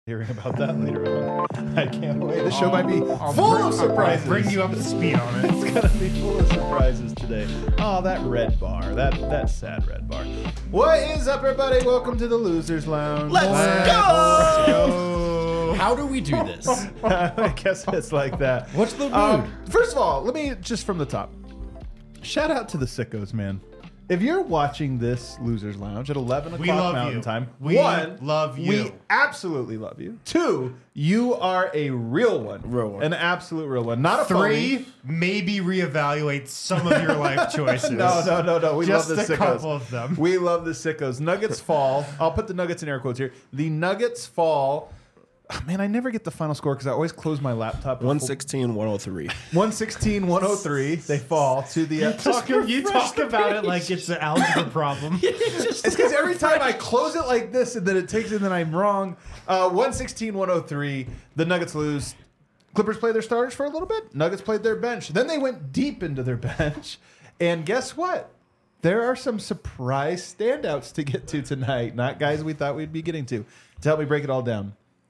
hearing about that later on. I can't wait. This show might be full of surprises. I'll bring you up to speed on it. It's gonna be full of surprises today. Oh, that red bar. That sad red bar. What is up, everybody? Welcome to the Losers Lounge. Let's go! How do we do this? I guess it's like that. What's the mood? First of all, let me just from the top. Shout out to the sickos, man. If you're watching this Losers Lounge at 11 o'clock We love Mountain you. Time, We one, love you. We absolutely love you. Two, you are a real one. Real one. An absolute real one. Not a Three, phony. maybe reevaluate some of your life choices. No. We Just love the a sickos. couple of them. We love the sickos. Nuggets fall. I'll put the Nuggets in air quotes here. The Nuggets fall. Oh, man, I never get the final score because I always close my laptop. 116-103. 116-103. They fall to the. You talk about it like it's an algebra problem. It's because every time I close it like this and then it takes it and then I'm wrong. 116-103. The Nuggets lose. Clippers played their starters for a little bit. Nuggets played their bench. Then they went deep into their bench. And guess what? There are some surprise standouts to get to tonight. Not guys we thought we'd be getting to. To help me break it all down,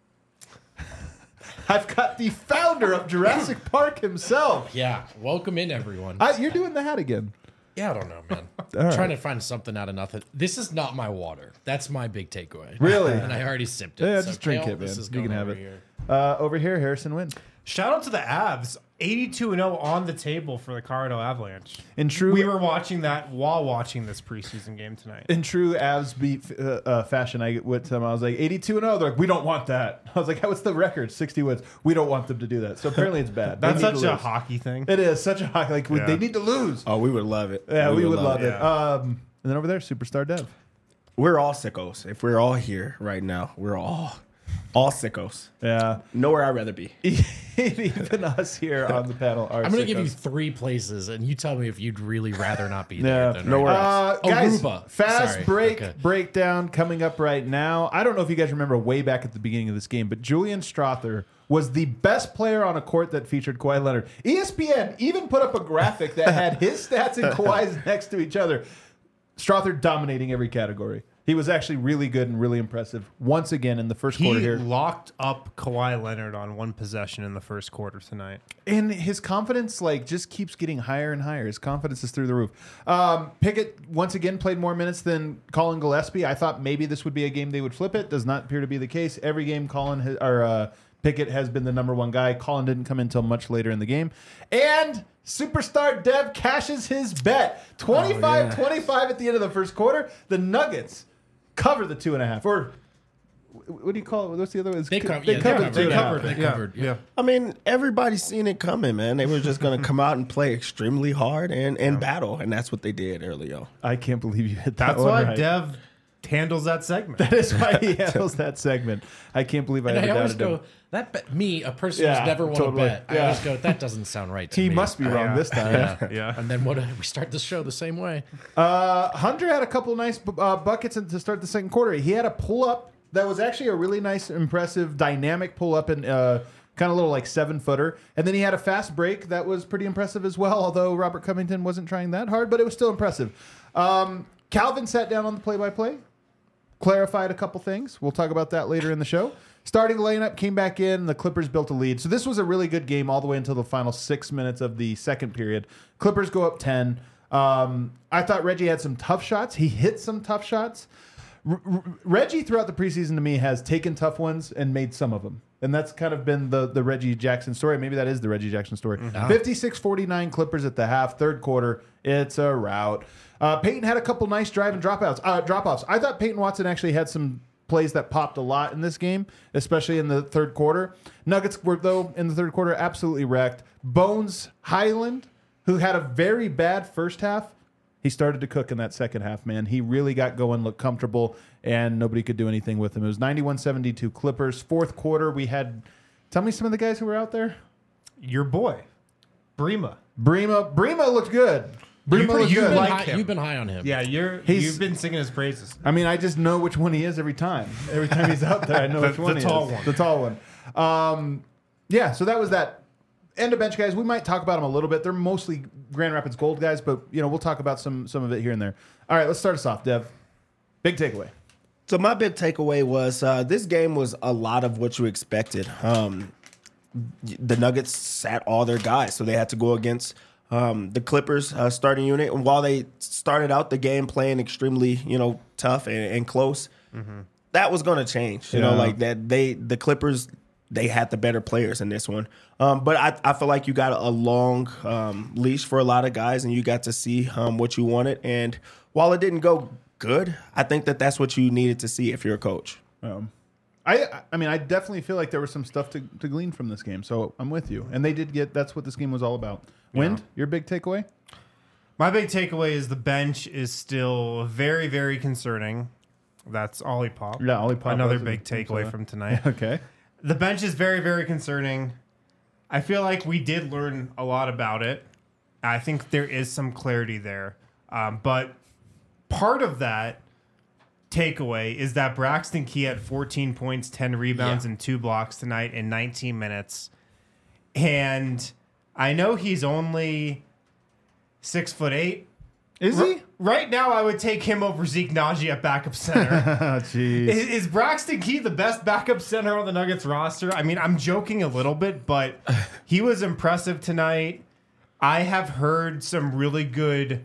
I've got the founder of Jurassic Park himself. Yeah, welcome in, everyone. You're doing the hat again. Yeah, I don't know, man. right. Trying to find something out of nothing. This is not my water. That's my big takeaway. Really? And I already sipped it. Yeah, so just drink Kale, it, man. this is You can going have over it. here. Over here, Harrison wins. Shout out to the Avs. 82-0 on the table for the Colorado Avalanche. In true, We were watching that while watching this preseason game tonight. in true Avs beat fashion, I went to them. I was like 82-0. They're like, we don't want that. I was like, what's the record? 60 wins. We don't want them to do that. So apparently it's bad. They That's need to such a lose. hockey thing. It is such a hockey. Like Yeah. they need to lose. Oh, we would love it. Yeah, we would love it. it. And then over there, Superstar Dev. We're all sickos. If we're all here right now, we're all sickos. Yeah, Nowhere I'd rather be. even us here on the panel are. I'm going to give you sickos. 3 places, and you tell me if you'd really rather not be Yeah, there. Than nowhere right. else. Guys, Aruba. fast Sorry. break Okay. breakdown coming up right now. I don't know if you guys remember way back at the beginning of this game, but Julian Strother was the best player on a court that featured Kawhi Leonard. ESPN even put up a graphic that had his stats and Kawhi's next to each other. Strother dominating every category. He was actually really good and really impressive once again in the first quarter He here. locked up Kawhi Leonard on one possession in the first quarter tonight. And his confidence just keeps getting higher and higher. His confidence is through the roof. Pickett once again played more minutes than Colin Gillespie. I thought maybe this would be a game they would flip it. Does not appear to be the case. Every game Pickett has been the number one guy. Colin didn't come in until much later in the game. And Superstar Dev cashes his bet. 25-25 at the end of the first quarter. The Nuggets cover the 2.5. Or what do you call it? What's the other one? They covered covered. the 2.5. They covered. Yeah. I mean, everybody's seen it coming, man. They were just going to come out and play extremely hard and battle, and that's what they did earlier. I can't believe you hit that That's one why right. Dev handles that segment. That is why he handles that segment. I can't believe I And ever I always doubted him. go, that bet, me, a person Yeah, who's never won totally. a bet. I Yeah. always go, that doesn't sound right to He me. must be wrong this time. Yeah. Yeah. And then we start the show the same way. Hunter had a couple of nice buckets to start the second quarter. He had a pull-up that was actually a really nice, impressive, dynamic pull-up and kind of little 7-footer. And then he had a fast break that was pretty impressive as well, although Robert Covington wasn't trying that hard, but it was still impressive. Calvin sat down on the play-by-play, clarified a couple things. We'll talk about that later in the show. Starting lineup came back in. The Clippers built a lead. So this was a really good game all the way until the final 6 minutes of the second period. Clippers go up 10. I thought Reggie had some tough shots. He hit some tough shots. Reggie throughout the preseason to me has taken tough ones and made some of them. And that's kind of been the Reggie Jackson story. Maybe that is the Reggie Jackson story. 56-49 Clippers at the half, third quarter. It's a rout. Peyton had a couple nice drive and drop-offs. I thought Peyton Watson actually had some plays that popped a lot in this game, especially in the third quarter. Nuggets were, though, in the third quarter, absolutely wrecked. Bones Highland, who had a very bad first half, he started to cook in that second half, man. He really got going, looked comfortable, and nobody could do anything with him. It was 91-72 Clippers. Fourth quarter, we had... Tell me some of the guys who were out there. Your boy, Brema. Brema looked good. Brema looked You've good. been, like high, him. you've been high on him. Yeah, you've been singing his praises. I mean, I just know which one he is every time. Every time he's out there, I know which one the he tall is. one. The tall one. Yeah, so that was that. End of bench guys, we might talk about them a little bit. They're mostly Grand Rapids Gold guys, but we'll talk about some of it here and there. All right, let's start us off, Dev. Big takeaway. So my big takeaway was this game was a lot of what you expected. The Nuggets sat all their guys, so they had to go against the Clippers starting unit. And while they started out the game playing extremely, tough and close, that was going to change. You know, like that the Clippers, they had the better players in this one. But I feel like you got a long leash for a lot of guys, and you got to see what you wanted. And while it didn't go good, I think that's what you needed to see if you're a coach. I mean, I definitely feel like there was some stuff to glean from this game. So I'm with you. And they did that's what this game was all about. Wind, your big takeaway? My big takeaway is the bench is still very, very concerning. That's Ollie Pop. Yeah, Ollie Pop. Another big takeaway from tonight. Okay. The bench is very, very concerning. I feel like we did learn a lot about it. I think there is some clarity there. But part of that takeaway is that Braxton Key had 14 points, 10 rebounds, and 2 blocks tonight in 19 minutes. And I know he's only 6'8". Is he? Right now, I would take him over Zeke Naji at backup center. Jeez. Is Braxton Key the best backup center on the Nuggets roster? I mean, I'm joking a little bit, but he was impressive tonight. I have heard some really good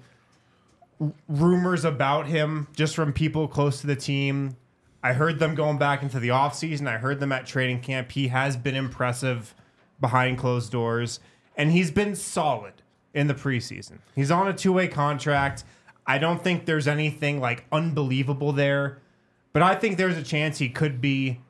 rumors about him just from people close to the team. I heard them going back into the offseason. I heard them at training camp. He has been impressive behind closed doors, and he's been solid in the preseason. He's on a 2-way contract. I don't think there's anything like unbelievable there, but I think there's a chance he could be,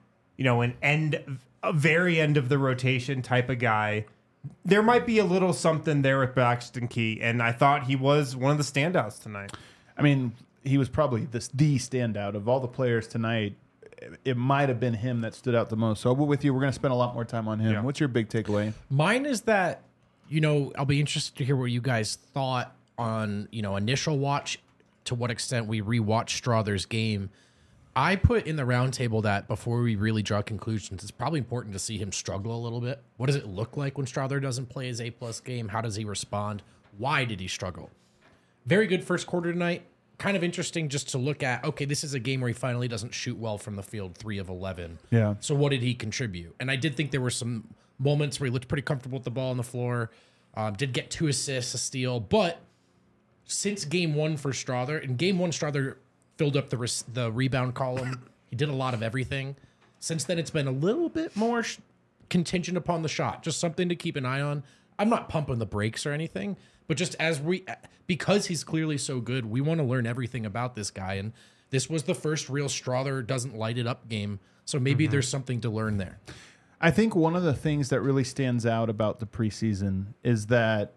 a very end of the rotation type of guy. There might be a little something there with Braxton Key, and I thought he was one of the standouts tonight. I mean, he was probably the standout of all the players tonight. It might have been him that stood out the most. So with you, we're going to spend a lot more time on him. Yeah. What's your big takeaway? Mine is that, I'll be interested to hear what you guys thought on, initial watch, to what extent we rewatched Strother's game. I put in the roundtable that before we really draw conclusions, it's probably important to see him struggle a little bit. What does it look like when Strother doesn't play his A+ game? How does he respond? Why did he struggle? Very good first quarter tonight. Kind of interesting just to look at, okay, this is a game where he finally doesn't shoot well from the field, 3 of 11. Yeah. So what did he contribute? And I did think there were some moments where he looked pretty comfortable with the ball on the floor, did get 2 assists, a steal. But since game 1 for Strother, in game 1, Strother filled up the rebound column. He did a lot of everything. Since then, it's been a little bit more contingent upon the shot. Just something to keep an eye on. I'm not pumping the brakes or anything, but just because he's clearly so good, we want to learn everything about this guy. And this was the first real Strother doesn't light it up game. So maybe there's something to learn there. I think one of the things that really stands out about the preseason is that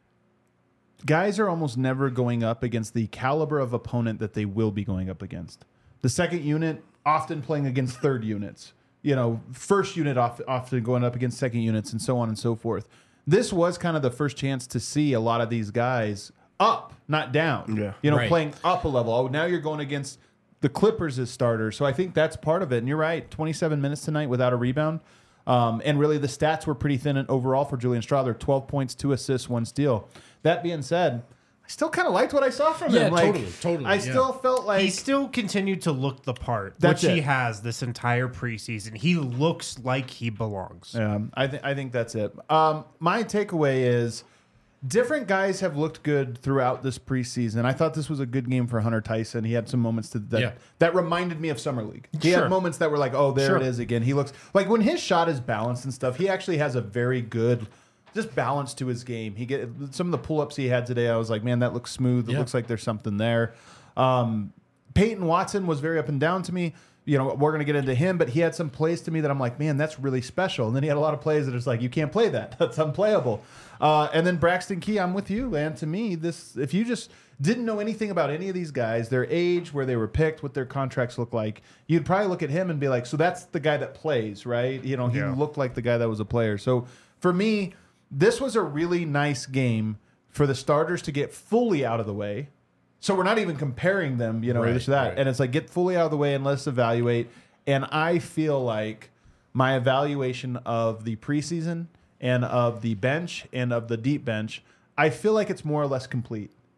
guys are almost never going up against the caliber of opponent that they will be going up against. The second unit often playing against third units. First unit often going up against second units, and so on and so forth. This was kind of the first chance to see a lot of these guys up, not down. Yeah. Right. Playing up a level. Oh, now you're going against the Clippers as starters. So I think that's part of it. And you're right, 27 minutes tonight without a rebound. And really the stats were pretty thin overall for Julian Strother. 12 points, 2 assists, 1 steal. That being said, I still kind of liked what I saw from him. Totally. I still felt like He still continued to look the part, That's which he it. has this entire preseason. He looks like he belongs. Yeah, I think that's it. My takeaway is different guys have looked good throughout this preseason. I thought this was a good game for Hunter Tyson. He had some moments that reminded me of Summer League. He had moments that were like, oh, there it is again. He looks like when his shot is balanced and stuff, he actually has a very good just balance to his game. He get some of the pull-ups he had today. I was like, man, that looks smooth. It looks like there's something there. Peyton Watson was very up and down to me. We're going to get into him, but he had some plays to me that I'm like, man, that's really special. And then he had a lot of plays that it's like, you can't play that. That's unplayable. And then Braxton Key, I'm with you, man. To me, if you just didn't know anything about any of these guys, their age, where they were picked, what their contracts look like, you'd probably look at him and be like, so that's the guy that plays, right? He looked like the guy that was a player. So for me, this was a really nice game for the starters to get fully out of the way. So we're not even comparing them, this or that. Right. And it's like, get fully out of the way and let's evaluate. And I feel like my evaluation of the preseason and of the bench and of the deep bench, I feel like it's more or less complete.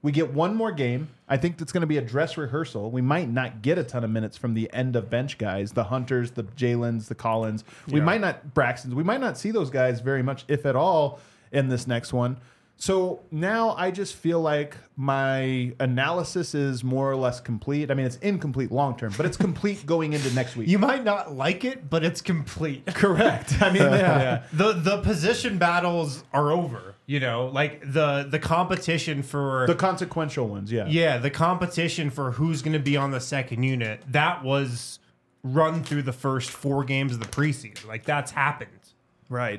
We get one more game. I think it's going to be a dress rehearsal. We might not get a ton of minutes from the end of bench guys, the Hunters, the Jalen's, the Collins. We might not, Braxton's. We might not see those guys very much, if at all, in this next one. So now I just feel like my analysis is more or less complete. I mean, it's incomplete long term, but it's complete going into next week. You might not like it, but it's complete. Correct. I mean, yeah. The position battles are over. You know, like the competition for The consequential ones, yeah. yeah, the competition for who's going to be on the second unit, that was run through the first 4 games of the preseason. Like, that's happened. Right.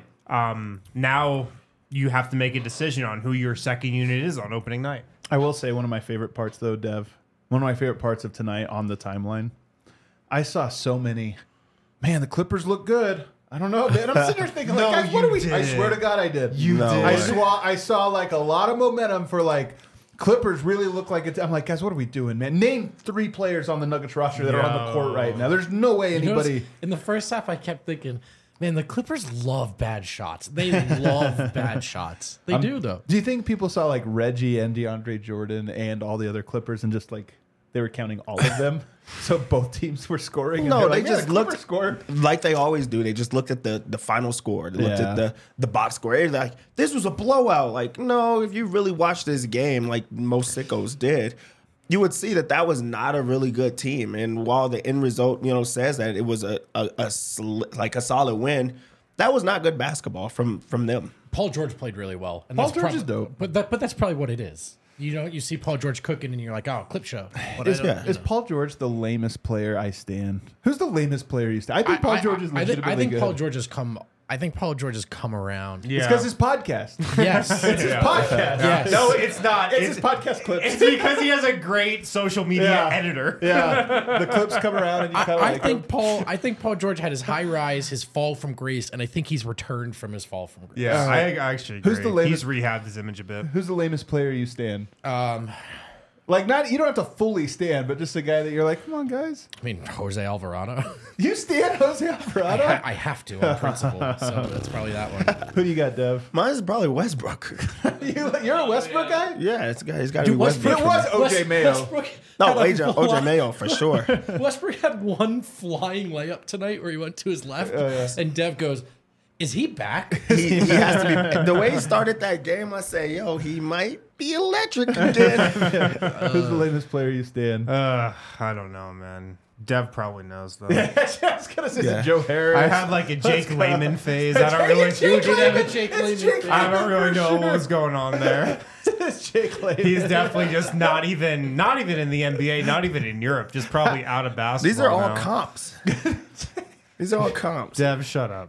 Now you have to make a decision on who your second unit is on opening night. I will say one of my favorite parts, though, Dev, one of my favorite parts of tonight on the timeline, I saw so many, man, the Clippers look good. I don't know, man. I'm sitting there thinking, No, like, guys, what you are we? I did. swear to God, I did. You No did. way. I saw like a lot of momentum for like Clippers really look like it. I'm like, guys, what are we doing, man? Name 3 players on the Nuggets roster that are on the court right now. There's no way anybody. In the first half, I kept thinking, man, the Clippers love bad shots. They love bad shots. They do, though. Do you think people saw like Reggie and DeAndre Jordan and all the other Clippers and just like they were counting all of them? So both teams were scoring. And No, they're they like, "Man, just the Clippers looked scored." like they always do. They just looked at the final score. They looked Yeah. at the box score. They're like, this was a blowout. Like, no, if you really watch this game, like most sickos did, you would see that that was not a really good team. And while the end result, says that it was a solid win, that was not good basketball from them. Paul George played really well. And Paul that's George is dope. But that's probably what it is. You see Paul George cooking, and you're like, oh, clip show. But Is Paul George the lamest player I stand? Who's the lamest player you stand? I think Paul George is legitimately I think good. Paul George has come. I think Paul George has come around. Yeah. It's because his podcast. Yes. It's his podcast. Yes. No, it's not. It's his podcast clips. It's because he has a great social media Yeah. editor. Yeah, the clips come around and you kind of I like think Paul George had his high rise, his fall from grace, and I think he's returned from his fall from grace. Yeah, I actually agree. Who's the lamest- He's rehabbed his image a bit. Who's the lamest player you stand? Like not you don't have to fully stand, but just a guy that you're like, come on, guys. I mean, Jose Alvarado. You stand Jose Alvarado? I have to on principle, so that's probably that one. Who do you got, Dev? Mine is probably Westbrook. You're a Westbrook guy? Yeah, he's got to be Westbrook- Westbrook. It was OJ Mayo. Westbrook No, had a OJ Mayo for sure. Westbrook had one flying layup tonight where he went to his left, and Dev goes, "Is he back?" He has to be. The way he started that game, I say, yo, he might be electric again. Who's the lamest player you stand? I don't know, man. Dev probably knows though. I was gonna say Yeah. Joe Harris. I had like a Jake Lehman phase. I don't really. You did have a Jake It's Lehman. Jake I don't really know for what was going on there. It's Jake Lehman. He's definitely just not even in the NBA, not even in Europe, just probably out of basketball. These are all now. comps. These are all comps. Dev, shut up.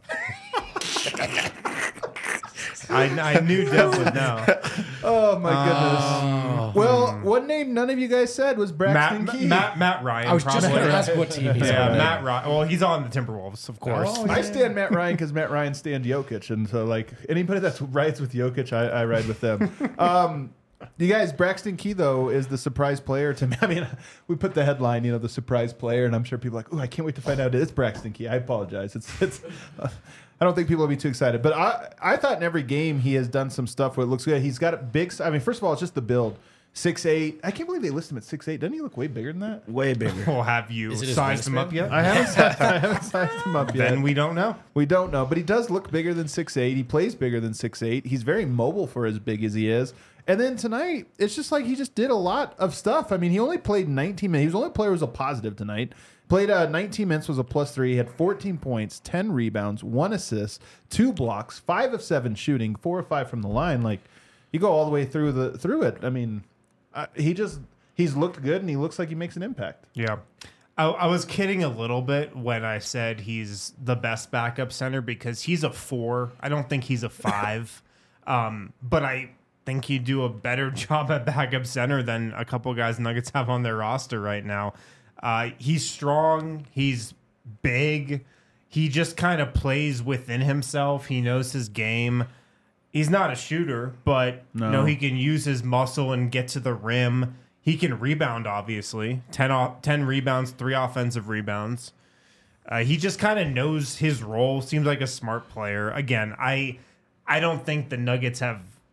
I knew Dev would know. Oh my goodness. Well, one name none of you guys said was Braxton Key. Matt Ryan. I was just probably. going to ask what team he's Yeah, on. Matt Ryan. Well, he's on the Timberwolves, of course. Oh, I stand Matt Ryan because Matt Ryan stand Jokic, and so like anybody that rides with Jokic, I ride with them. You guys, Braxton Key though is the surprise player to me. I mean, we put the headline, the surprise player, and I'm sure people are like, "Oh, I can't wait to find out it's Braxton Key." I apologize. It's. I don't think people will be too excited, but I thought in every game he has done some stuff where it looks good. He's got a big. I mean, first of all, it's just the build. 6'8". I can't believe they list him at 6'8". Doesn't he look way bigger than that? Way bigger. Well, have you Is it his sized him wingspan? up yet? I haven't sized him up yet. Then we don't know. We don't know, but he does look bigger than 6'8". He plays bigger than 6'8". He's very mobile for as big as he is. And then tonight, it's just like he just did a lot of stuff. I mean, he only played 19 minutes. He was the only player who was a positive tonight. Played 19 minutes, was a +3. He had 14 points, 10 rebounds, 1 assist, 2 blocks, 5 of 7 shooting, 4 of 5 from the line. Like, you go all the way through it. I mean, he's looked good, and he looks like he makes an impact. Yeah. I was kidding a little bit when I said he's the best backup center because he's a 4. I don't think he's a 5. But I think he'd do a better job at backup center than a couple guys Nuggets have on their roster right now. He's strong. He's big. He just kind of plays within himself. He knows his game. He's not a shooter, but he can use his muscle and get to the rim. He can rebound, obviously. 10 rebounds, 3 offensive rebounds. He just kind of knows his role. Seems like a smart player. Again, I don't think the Nuggets have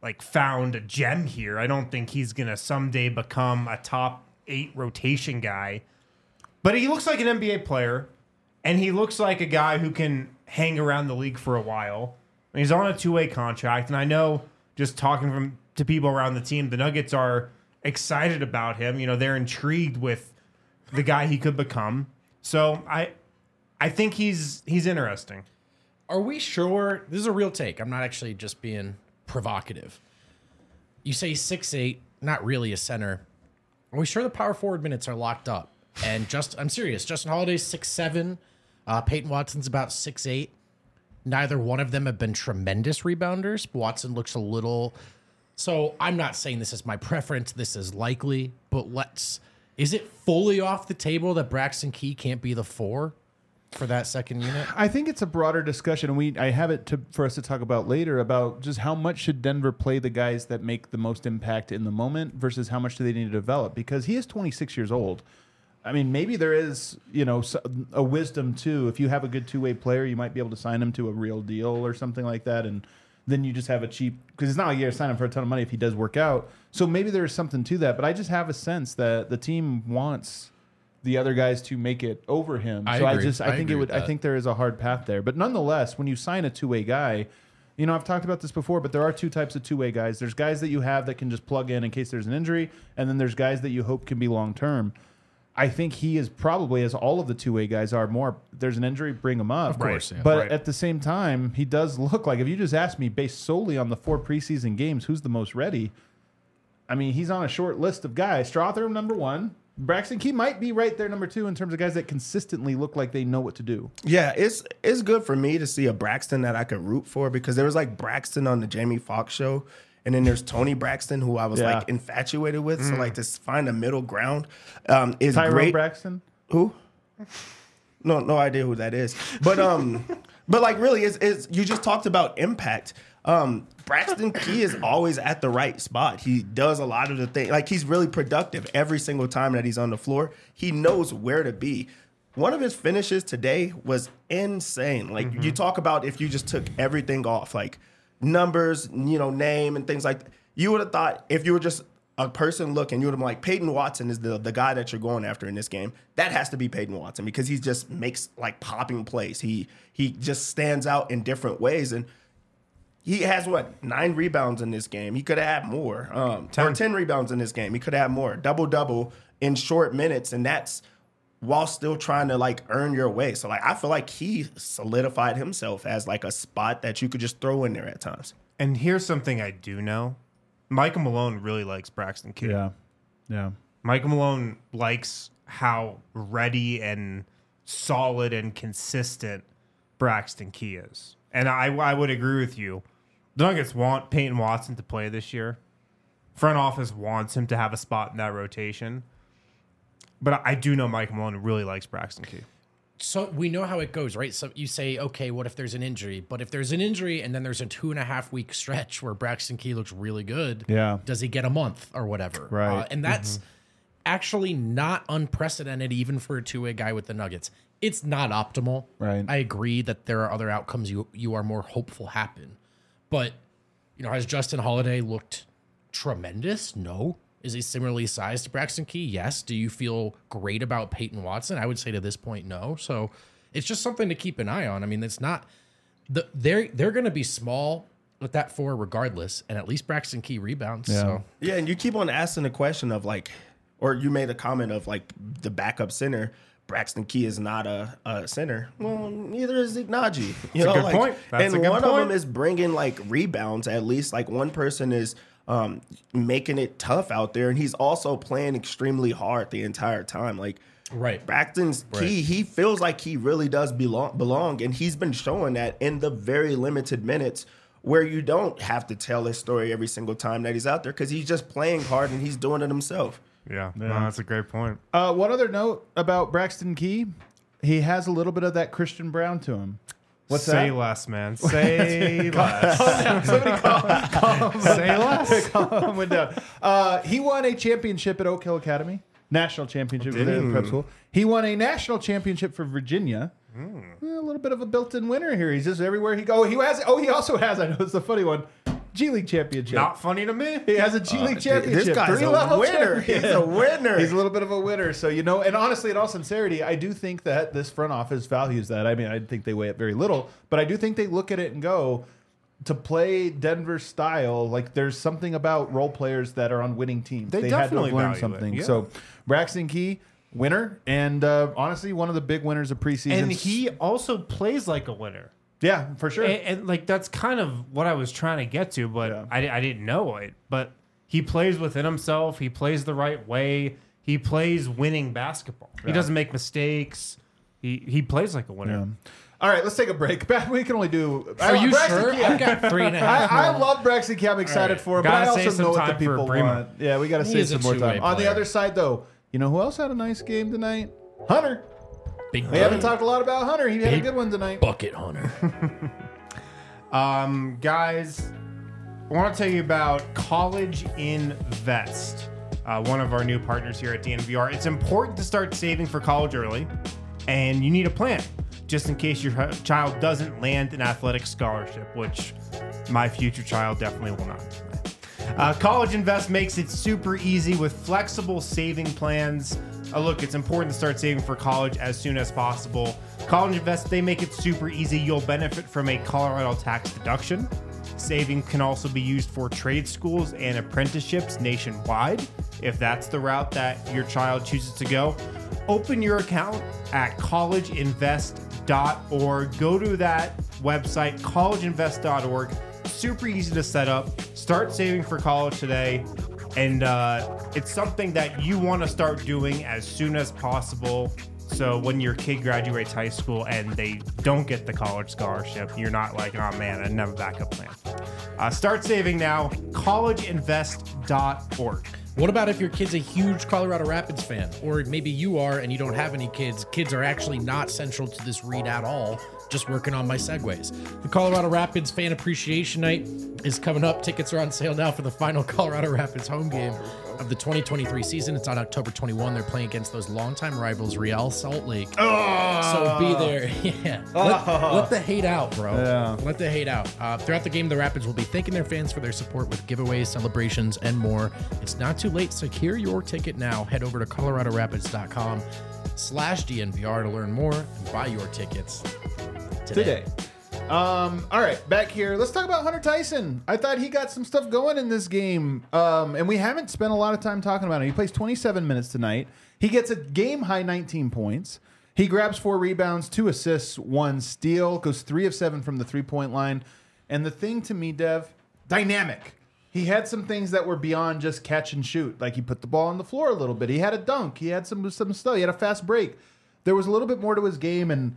like found a gem here. I don't think he's gonna someday become a top 8 rotation guy. But he looks like an NBA player, and he looks like a guy who can hang around the league for a while. And he's on a 2-way contract, and I know just talking to people around the team, the Nuggets are excited about him. You know, they're intrigued with the guy he could become. So I think he's interesting. Are we sure? This is a real take. I'm not actually just being provocative. You say 6'8", not really a center. Are we sure the power forward minutes are locked up? And I'm serious. Justin Holiday's 6'7". Peyton Watson's about 6'8". Neither one of them have been tremendous rebounders. Watson looks a little. So I'm not saying this is my preference. This is likely, but is it fully off the table that Braxton Key can't be the 4 for that second unit? I think it's a broader discussion, and I have it for us to talk about later about just how much should Denver play the guys that make the most impact in the moment versus how much do they need to develop, because he is 26 years old. I mean, maybe there is, a wisdom too. If you have a good 2-way player, you might be able to sign him to a real deal or something like that, and then you just have a cheap, because it's not like you're going to sign him for a ton of money if he does work out. So maybe there's something to that, but I just have a sense that the team wants the other guys to make it over him. I think there is a hard path there. But nonetheless, when you sign a 2-way guy, I've talked about this before, but there are 2 types of 2-way guys. There's guys that you have that can just plug in case there's an injury, and then there's guys that you hope can be long term. I think he is probably, as all of the 2-way guys are, more, there's an injury, bring him up. Of course, yeah. But at the same time, he does look like, if you just ask me, based solely on the 4 preseason games, who's the most ready? I mean, he's on a short list of guys. Strawther, number 1. Braxton Key might be right there, number 2, in terms of guys that consistently look like they know what to do. Yeah, it's good for me to see a Braxton that I could root for, because there was like Braxton on the Jamie Foxx show, and then there's Tony Braxton, who I was like infatuated with. So like to find a middle ground is Tyrone great. Braxton? Who? No idea who that is. But but like really, is you just talked about impact. Braxton Key is always at the right spot. He does a lot of the things. Like, he's really productive every single time that he's on the floor. He knows where to be. One of his finishes today was insane. Like, you talk about if you just took everything off, like numbers, name and things like that. You would have thought, if you were just a person looking, you would have been like, Peyton Watson is the guy that you're going after in this game. That has to be Peyton Watson, because he just makes like popping plays. He just stands out in different ways. And he has 9 rebounds in this game. He could have had more. 10 rebounds in this game. He could have had more. Double in short minutes, and that's while still trying to like earn your way. So like, I feel like he solidified himself as like a spot that you could just throw in there at times. And here's something I do know: Michael Malone really likes Braxton Key. Yeah. Michael Malone likes how ready and solid and consistent Braxton Key is, and I would agree with you. The Nuggets want Peyton Watson to play this year. Front office wants him to have a spot in that rotation. But I do know Mike Malone really likes Braxton Key. So we know how it goes, right? So you say, okay, what if there's an injury? But if there's an injury and then there's a 2.5 week stretch where Braxton Key looks really good, does he get a month or whatever? Right. And that's actually not unprecedented even for a 2-way guy with the Nuggets. It's not optimal. Right. I agree that there are other outcomes you are more hopeful happen. But, has Justin Holiday looked tremendous? No. Is he similarly sized to Braxton Key? Yes. Do you feel great about Peyton Watson? I would say to this point, no. So it's just something to keep an eye on. I mean, it's not they're going to be small with that 4 regardless, and at least Braxton Key rebounds. Yeah. So Yeah, and you keep on asking the question of like, or you made a comment of like the backup center. Braxton Key is not a center. Well, neither is Ignaji. That's a good point. That's a good one of point. them is bringing like rebounds. At least like one person is making it tough out there, and he's also playing extremely hard the entire time. Like right. Braxton's Key, he feels like he really does belong, and he's been showing that in the very limited minutes where you don't have to tell his story every single time that he's out there, because he's just playing hard and he's doing it himself. Yeah, no, that's a great point. One other note about Braxton Key, he has a little bit of that Christian Brown to him. What's Say that? less, man. Say less. Somebody calm Say less. calm him down. He won a championship at Oak Hill Academy, national championship for the prep school. He won a national championship for Virginia. A little bit of a built-in winner here. He's just everywhere he goes. He also has. I know it's a funny one. G League championship. Not funny to me. He has a G League championship. This guy's a 3-level winner. champion. He's a winner. He's a little bit of a winner. So, and honestly, in all sincerity, I do think that this front office values that. I mean, I think they weigh it very little, but I do think they look at it and go, to play Denver style, like there's something about role players that are on winning teams. They had to definitely have learned value something. it, yeah. So, Braxton Key, winner, and honestly, one of the big winners of preseason. And he also plays like a winner. yeah, for sure. And like that's kind of what I was trying to get to, but Yeah. I didn't know it. But he plays within himself. He plays the right way. He plays winning basketball. He doesn't make mistakes. He plays like a winner. Yeah. All right, let's take a break. We can only do. Are you Braxton sure? Key- I've got 3.5. I love Braxton Key. I'm excited right. for him, but Gotta I save also some know what the time for people Bremer. want. Yeah, we got to He save is a some more two-way time. On the player. other side, though, you know who else had a nice game tonight? Hunter. Big We haven't talked a lot about Hunter. He had a Big good one tonight. bucket hunter. Guys, I want to tell you about College Invest, one of our new partners here at DNVR. It's important to start saving for college early, and you need a plan just in case your child doesn't land an athletic scholarship, which my future child definitely will not. College Invest makes it super easy with flexible saving plans. Look, it's important to start saving for college as soon as possible. College Invest, they make it super easy. You'll benefit from a Colorado tax deduction. Saving can also be used for trade schools and apprenticeships nationwide, if that's the route that your child chooses to go. Open your account at collegeinvest.org. Go to that website, collegeinvest.org. Super easy to set up. Start saving for college today. And it's something that you want to start doing as soon as possible. So when your kid graduates high school and they don't get the college scholarship, you're not like, oh man, I didn't have a backup plan. Start saving now, collegeinvest.org. What about if your kid's a huge Colorado Rapids fan? Or maybe you are and you don't have any kids. Kids are actually not central to this read at all. Just working on my segues. The Colorado Rapids Fan Appreciation Night is coming up. Tickets are on sale now for the final Colorado Rapids home game of the 2023 season. It's on October 21. They're playing against those longtime rivals, Real Salt Lake. So be there. Yeah. Let the hate out, bro. Yeah. Let the hate out. Throughout the game, the Rapids will be thanking their fans for their support with giveaways, celebrations, and more. It's not too late. Secure your ticket now. Head over to coloradorapids.com/DNVR to learn more and buy your tickets today. All right, back here. Let's talk about Hunter Tyson. I thought he got some stuff going in this game, and we haven't spent a lot of time talking about it. He plays 27 minutes tonight. He gets a game-high 19 points. He grabs 4 rebounds, 2 assists, 1 steal, goes 3 of 7 from the three-point line. And the thing to me, Dev, dynamic. He had some things that were beyond just catch and shoot. Like he put the ball on the floor a little bit. He had a dunk. He had some stuff. He had a fast break. There was a little bit more to his game, and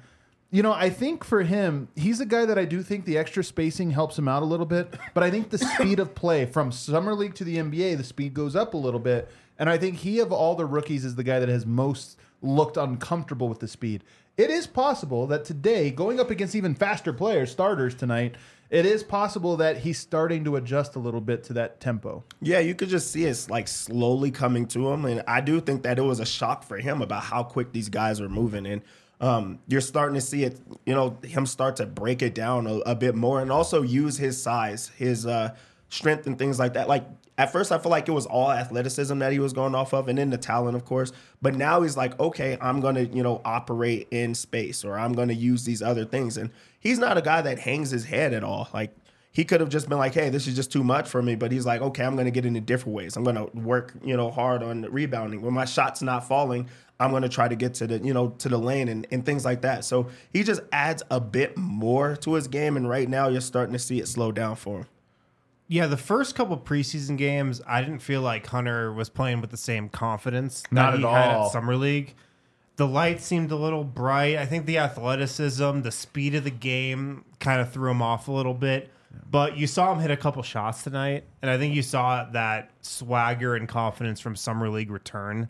I think for him, he's a guy that I do think the extra spacing helps him out a little bit. But I think the speed of play from Summer League to the NBA, the speed goes up a little bit. And I think he, of all the rookies, is the guy that has most looked uncomfortable with the speed. It is possible that today, going up against even faster players, starters tonight, it is possible that he's starting to adjust a little bit to that tempo. Yeah, you could just see it's like slowly coming to him. And I do think that it was a shock for him about how quick these guys are moving. And you're starting to see it, him start to break it down a bit more and also use his size, his strength and things like that. Like at first I feel like it was all athleticism that he was going off of and then the talent, of course. But now he's like, okay, I'm going to, operate in space or I'm going to use these other things. And he's not a guy that hangs his head at all. Like he could have just been like, hey, this is just too much for me. But he's like, okay, I'm going to get into different ways. I'm going to work, hard on rebounding. When my shot's not falling, I'm going to try to get to the, to the lane and things like that. So he just adds a bit more to his game. And right now you're starting to see it slow down for him. Yeah, the first couple preseason games, I didn't feel like Hunter was playing with the same confidence Not that he at had all. at Summer League. The lights seemed a little bright. I think the athleticism, the speed of the game kind of threw him off a little bit. But you saw him hit a couple shots tonight, and I think you saw that swagger and confidence from Summer League return.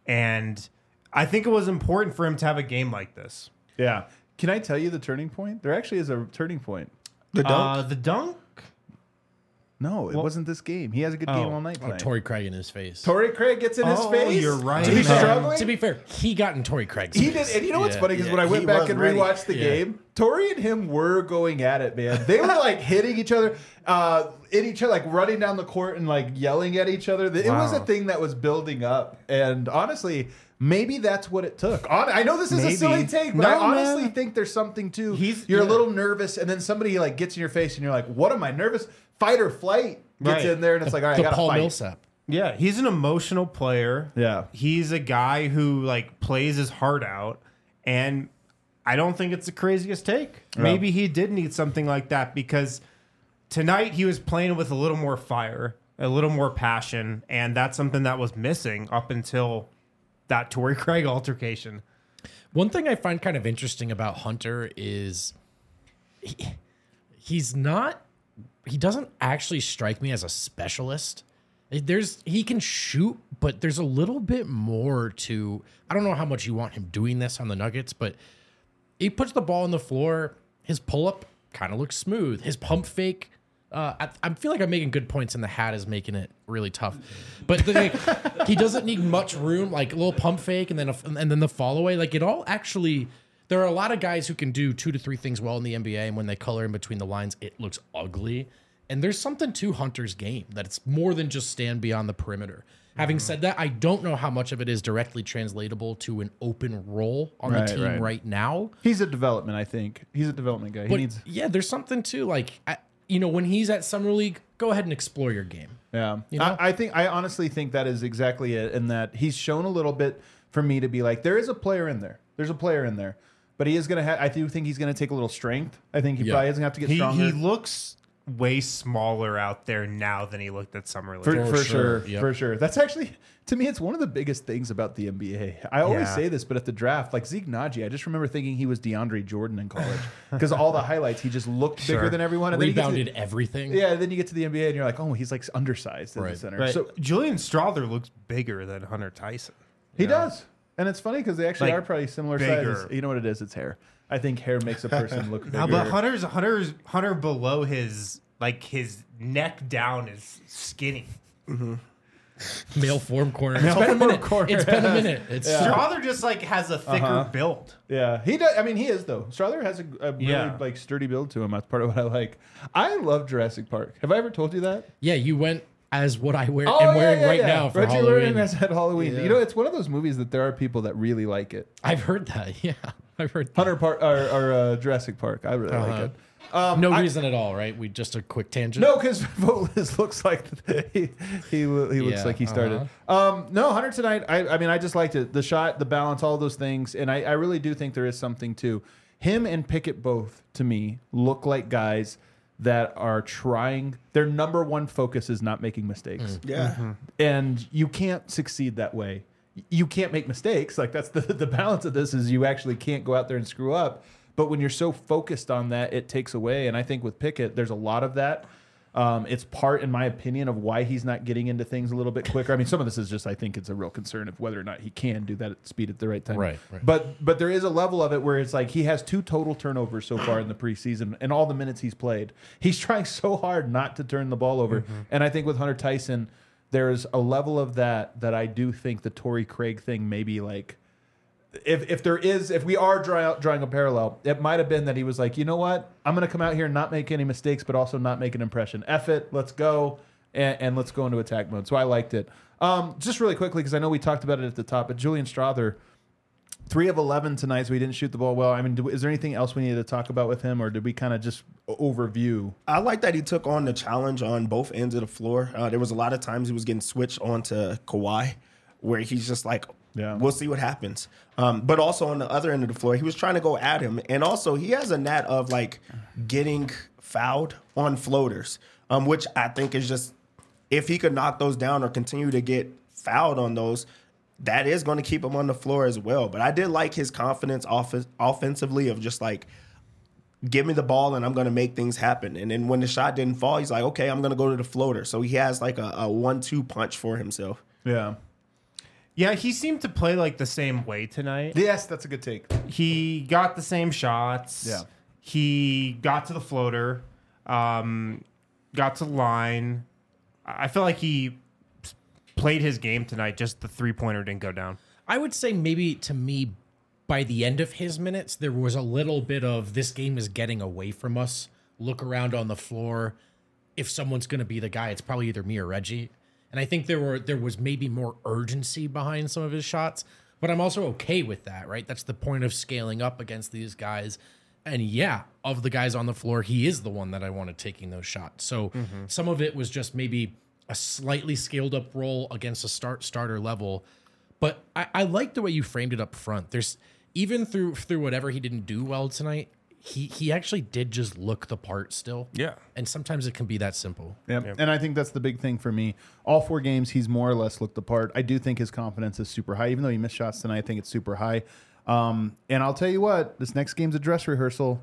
And I think it was important for him to have a game like this. Yeah. Can I tell you the turning point? There actually is a turning point. The dunk? The dunk? No, it wasn't this game. He has a good game all night Oh, tonight. Torrey Craig in his face. Torrey Craig gets in his face. You're right. To be man. struggling. To be fair, he got in Torrey Craig's He face. did, and you know what's Yeah. funny is when I went he back was and ready. rewatched the Yeah. game, Tori and him were going at it, man. They were like hitting each other, like running down the court and like yelling at each other. It was a Wow. thing that was building up, and honestly, maybe that's what it took. I know this is a Maybe. silly take, but No, I honestly man. think there's something to. He's- You're a yeah. little nervous, and then somebody like gets in your face, and you're like, "What am I nervous?" Fight or flight gets Right. in there, and it's like, "All right, I The gotta Paul fight." Millsap. Yeah, he's an emotional player. Yeah. He's a guy who like plays his heart out, and I don't think it's the craziest take. Maybe he did need something like that because tonight he was playing with a little more fire, a little more passion, and that's something that was missing up until that Torrey Craig altercation. One thing I find kind of interesting about Hunter is he doesn't actually strike me as a specialist. He can shoot, but there's a little bit more to. I don't know how much you want him doing this on the Nuggets, but he puts the ball on the floor. His pull up kind of looks smooth. His pump fake. I feel like I'm making good points, and the hat is making it really tough. But he doesn't need much room, like a little pump fake, and then the fall away. Like it all actually. There are a lot of guys who can do 2 to 3 things well in the NBA, and when they color in between the lines, it looks ugly. And there's something to Hunter's game that it's more than just stand beyond the perimeter. Having said that, I don't know how much of it is directly translatable to an open role on the Right, team right. right now. He's a development, I think. He's a development guy. He But needs. yeah, there's something to like, when he's at Summer League, go ahead and explore your game. Yeah, You know? I honestly think that is exactly it, and that he's shown a little bit for me to be like, there is a player in there. There's a player in there, but he is gonna have. I do think he's gonna take a little strength. I think he probably is gonna have to get stronger. He looks way smaller out there now than he looked at Summer League. for For sure, sure, yep. for sure. That's actually, to me, it's one of the biggest things about the NBA. I always Yeah. say this, but at the draft, like Zeke Naji, I just remember thinking he was DeAndre Jordan in college because all the highlights, he just looked bigger Sure. than everyone. And then you get to Rebounded everything. yeah, then you get to the NBA and you're like, oh, he's like undersized in the Right. center. Right. So Julian Strawther looks bigger than Hunter Tyson. he does. And it's funny because they actually Like, are probably similar bigger. sizes. You know what it is? It's hair. I think hair makes a person look bigger. No, but Hunter below his neck down is skinny. Male form corner. Male It's been a form minute. corner. It's been a minute. It's Strawther just like has a thicker build. Yeah, he does. I mean, he is though. Strawther has a really Yeah. like sturdy build to him. That's part of what I like. I love Jurassic Park. Have I ever told you that? Yeah, you went as what I am wearing yeah, right yeah. now for Reggie Halloween. Learning at Halloween. Yeah. You know, it's one of those movies that there are people that really like it. I've heard that. Yeah, I've heard that. Hunter Park or Jurassic Park. I really like it. No reason at all, right? Just a quick tangent. No, because Volis looks like he looks Yeah, like he started. No, Hunter tonight. I mean, I just liked it. The shot, the balance, all those things, and I really do think there is something to him and Pickett. Both to me look like guys that are trying. Their number one focus is not making mistakes, Yeah. and you can't succeed that way. You can't make mistakes. Like that's the balance of this is you actually can't go out there and screw up. But when you're so focused on that, it takes away. And I think with Pickett, there's a lot of that. It's part, in my opinion, of why he's not getting into things a little bit quicker. I mean, some of this is just, I think it's a real concern of whether or not he can do that at speed at the right time. Right. But there is a level of it where it's like he has 2 total turnovers so far in the preseason and all the minutes he's played. He's trying so hard not to turn the ball over. And I think with Hunter Tyson, there's a level of that I do think the Torrey Craig thing maybe like, if we are drawing a parallel, it might have been that he was like, you know what, I'm going to come out here and not make any mistakes, but also not make an impression. F it, let's go, and let's go into attack mode. So I liked it. Just really quickly, because I know we talked about it at the top, but Julian Strawther, 3 of 11 tonight, so he didn't shoot the ball well. I mean, is there anything else we needed to talk about with him, or did we kind of just overview? I like that he took on the challenge on both ends of the floor. There was a lot of times he was getting switched onto Kawhi, where he's just like, Yeah. we'll see what happens. But also on the other end of the floor, he was trying to go at him. And also he has a knack of like getting fouled on floaters, which I think is just, if he could knock those down or continue to get fouled on those, that is going to keep him on the floor as well. But I did like his confidence offensively of just like, give me the ball and I'm going to make things happen. And then when the shot didn't fall, he's like, okay, I'm going to go to the floater. So he has like a 1-2 punch for himself. Yeah. Yeah, he seemed to play like the same way tonight. Yes, that's a good take. He got the same shots. Yeah. He got to the floater. got to line. I feel like he played his game tonight. Just the 3-pointer didn't go down. I would say maybe to me, by the end of his minutes, there was a little bit of this game is getting away from us. Look around on the floor. If someone's going to be the guy, it's probably either me or Reggie. And I think there was maybe more urgency behind some of his shots, but I'm also okay with that, right? That's the point of scaling up against these guys. And yeah, of the guys on the floor, he is the one that I wanted taking those shots. So some of it was just maybe a slightly scaled up role against a starter level. But I like the way you framed it up front. There's even through whatever he didn't do well tonight, he actually did just look the part still. Yeah. And sometimes it can be that simple. Yep. And I think that's the big thing for me. All 4 games, he's more or less looked the part. I do think his confidence is super high. Even though he missed shots tonight, I think it's super high. And I'll tell you what, this next game's a dress rehearsal.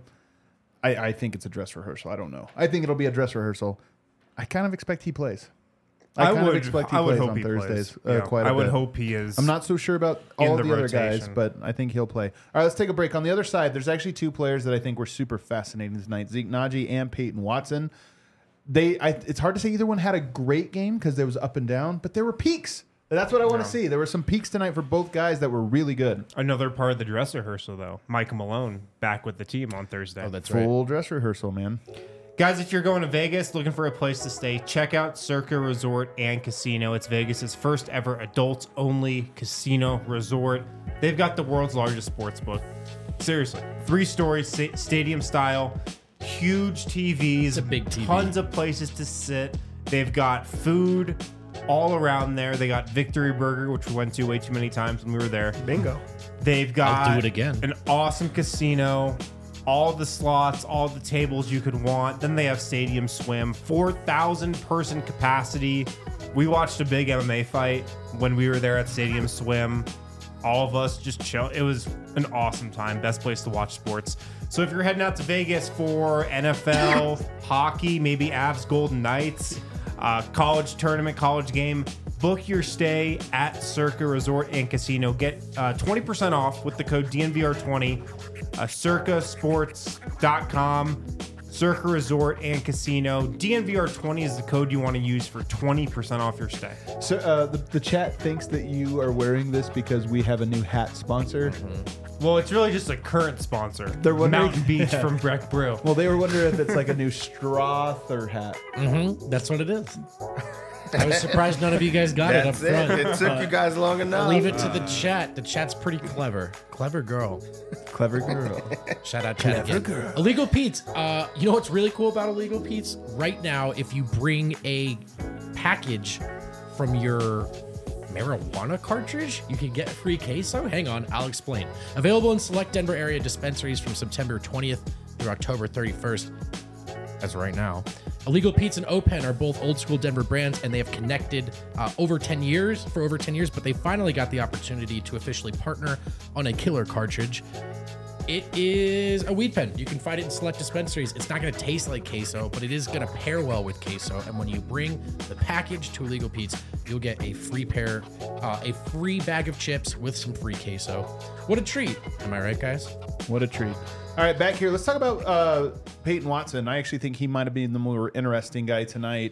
I think it's a dress rehearsal. I don't know. I think it'll be a dress rehearsal. I kind of expect he plays. I would expect he plays on Thursdays. Quite a I would bit. hope he is. I'm not so sure about all the the other guys, rotation. but I think he'll play. All right, let's take a break. On the other side, there's actually 2 players that I think were super fascinating tonight: Zeke Naji and Peyton Watson. It's hard to say either one had a great game because there was up and down, but there were peaks. That's what I want to see. There were some peaks tonight for both guys that were really good. Another part of the dress rehearsal, though. Michael Malone back with the team on Thursday. Oh, that's right. Full dress rehearsal, man. Guys, if you're going to Vegas looking for a place to stay, check out Circa Resort and Casino. It's Vegas's first ever adults-only casino resort. They've got the world's largest sports book. Seriously, 3-story stadium style, huge TVs, It's a big TV. tons of places to sit. They've got food all around there. They got Victory Burger, which we went to way too many times when we were there. Bingo. They've got I'll do it again. an awesome casino, all the slots, all the tables you could want. Then they have Stadium Swim, 4,000 person capacity. We watched a big MMA fight when we were there at Stadium Swim. All of us just chill. It was an awesome time. Best place to watch sports. So if you're heading out to Vegas for NFL, hockey, maybe Avs Golden Knights, college tournament, college game, book your stay at Circa Resort and Casino. Get 20% off with the code DNVR20. Circasports.com. Circa Resort and Casino. DNVR20 is the code you want to use for 20% off your stay. So the chat thinks that you are wearing this because we have a new hat sponsor. Well, it's really just a current sponsor. They're wondering- Mountain Beach from Breck Brew. Well, they were wondering if it's like a new Strother hat. That's what it is. I was surprised none of you guys got it up That's it. front. It took you guys long enough. I'll leave it to the chat. The chat's pretty clever. Clever girl. Clever girl. Shout out chat again. Illegal Pete's. You know what's really cool about Illegal Pete's? Right now, if you bring a package from your marijuana cartridge, you can get a free queso. Hang on, I'll explain. Available in select Denver area dispensaries from September 20th through October 31st. As right now. Illegal Pete's and Open are both old school Denver brands, and they have connected for over 10 years, but they finally got the opportunity to officially partner on a killer cartridge. It is a weed pen. You can find it in select dispensaries. It's not going to taste like queso, but it is going to pair well with queso. And when you bring the package to Illegal Pete's, you'll get a free bag of chips with some free queso. What a treat. Am I right, guys? What a treat. All right, back here. Let's talk about Peyton Watson. I actually think he might have been the more interesting guy tonight.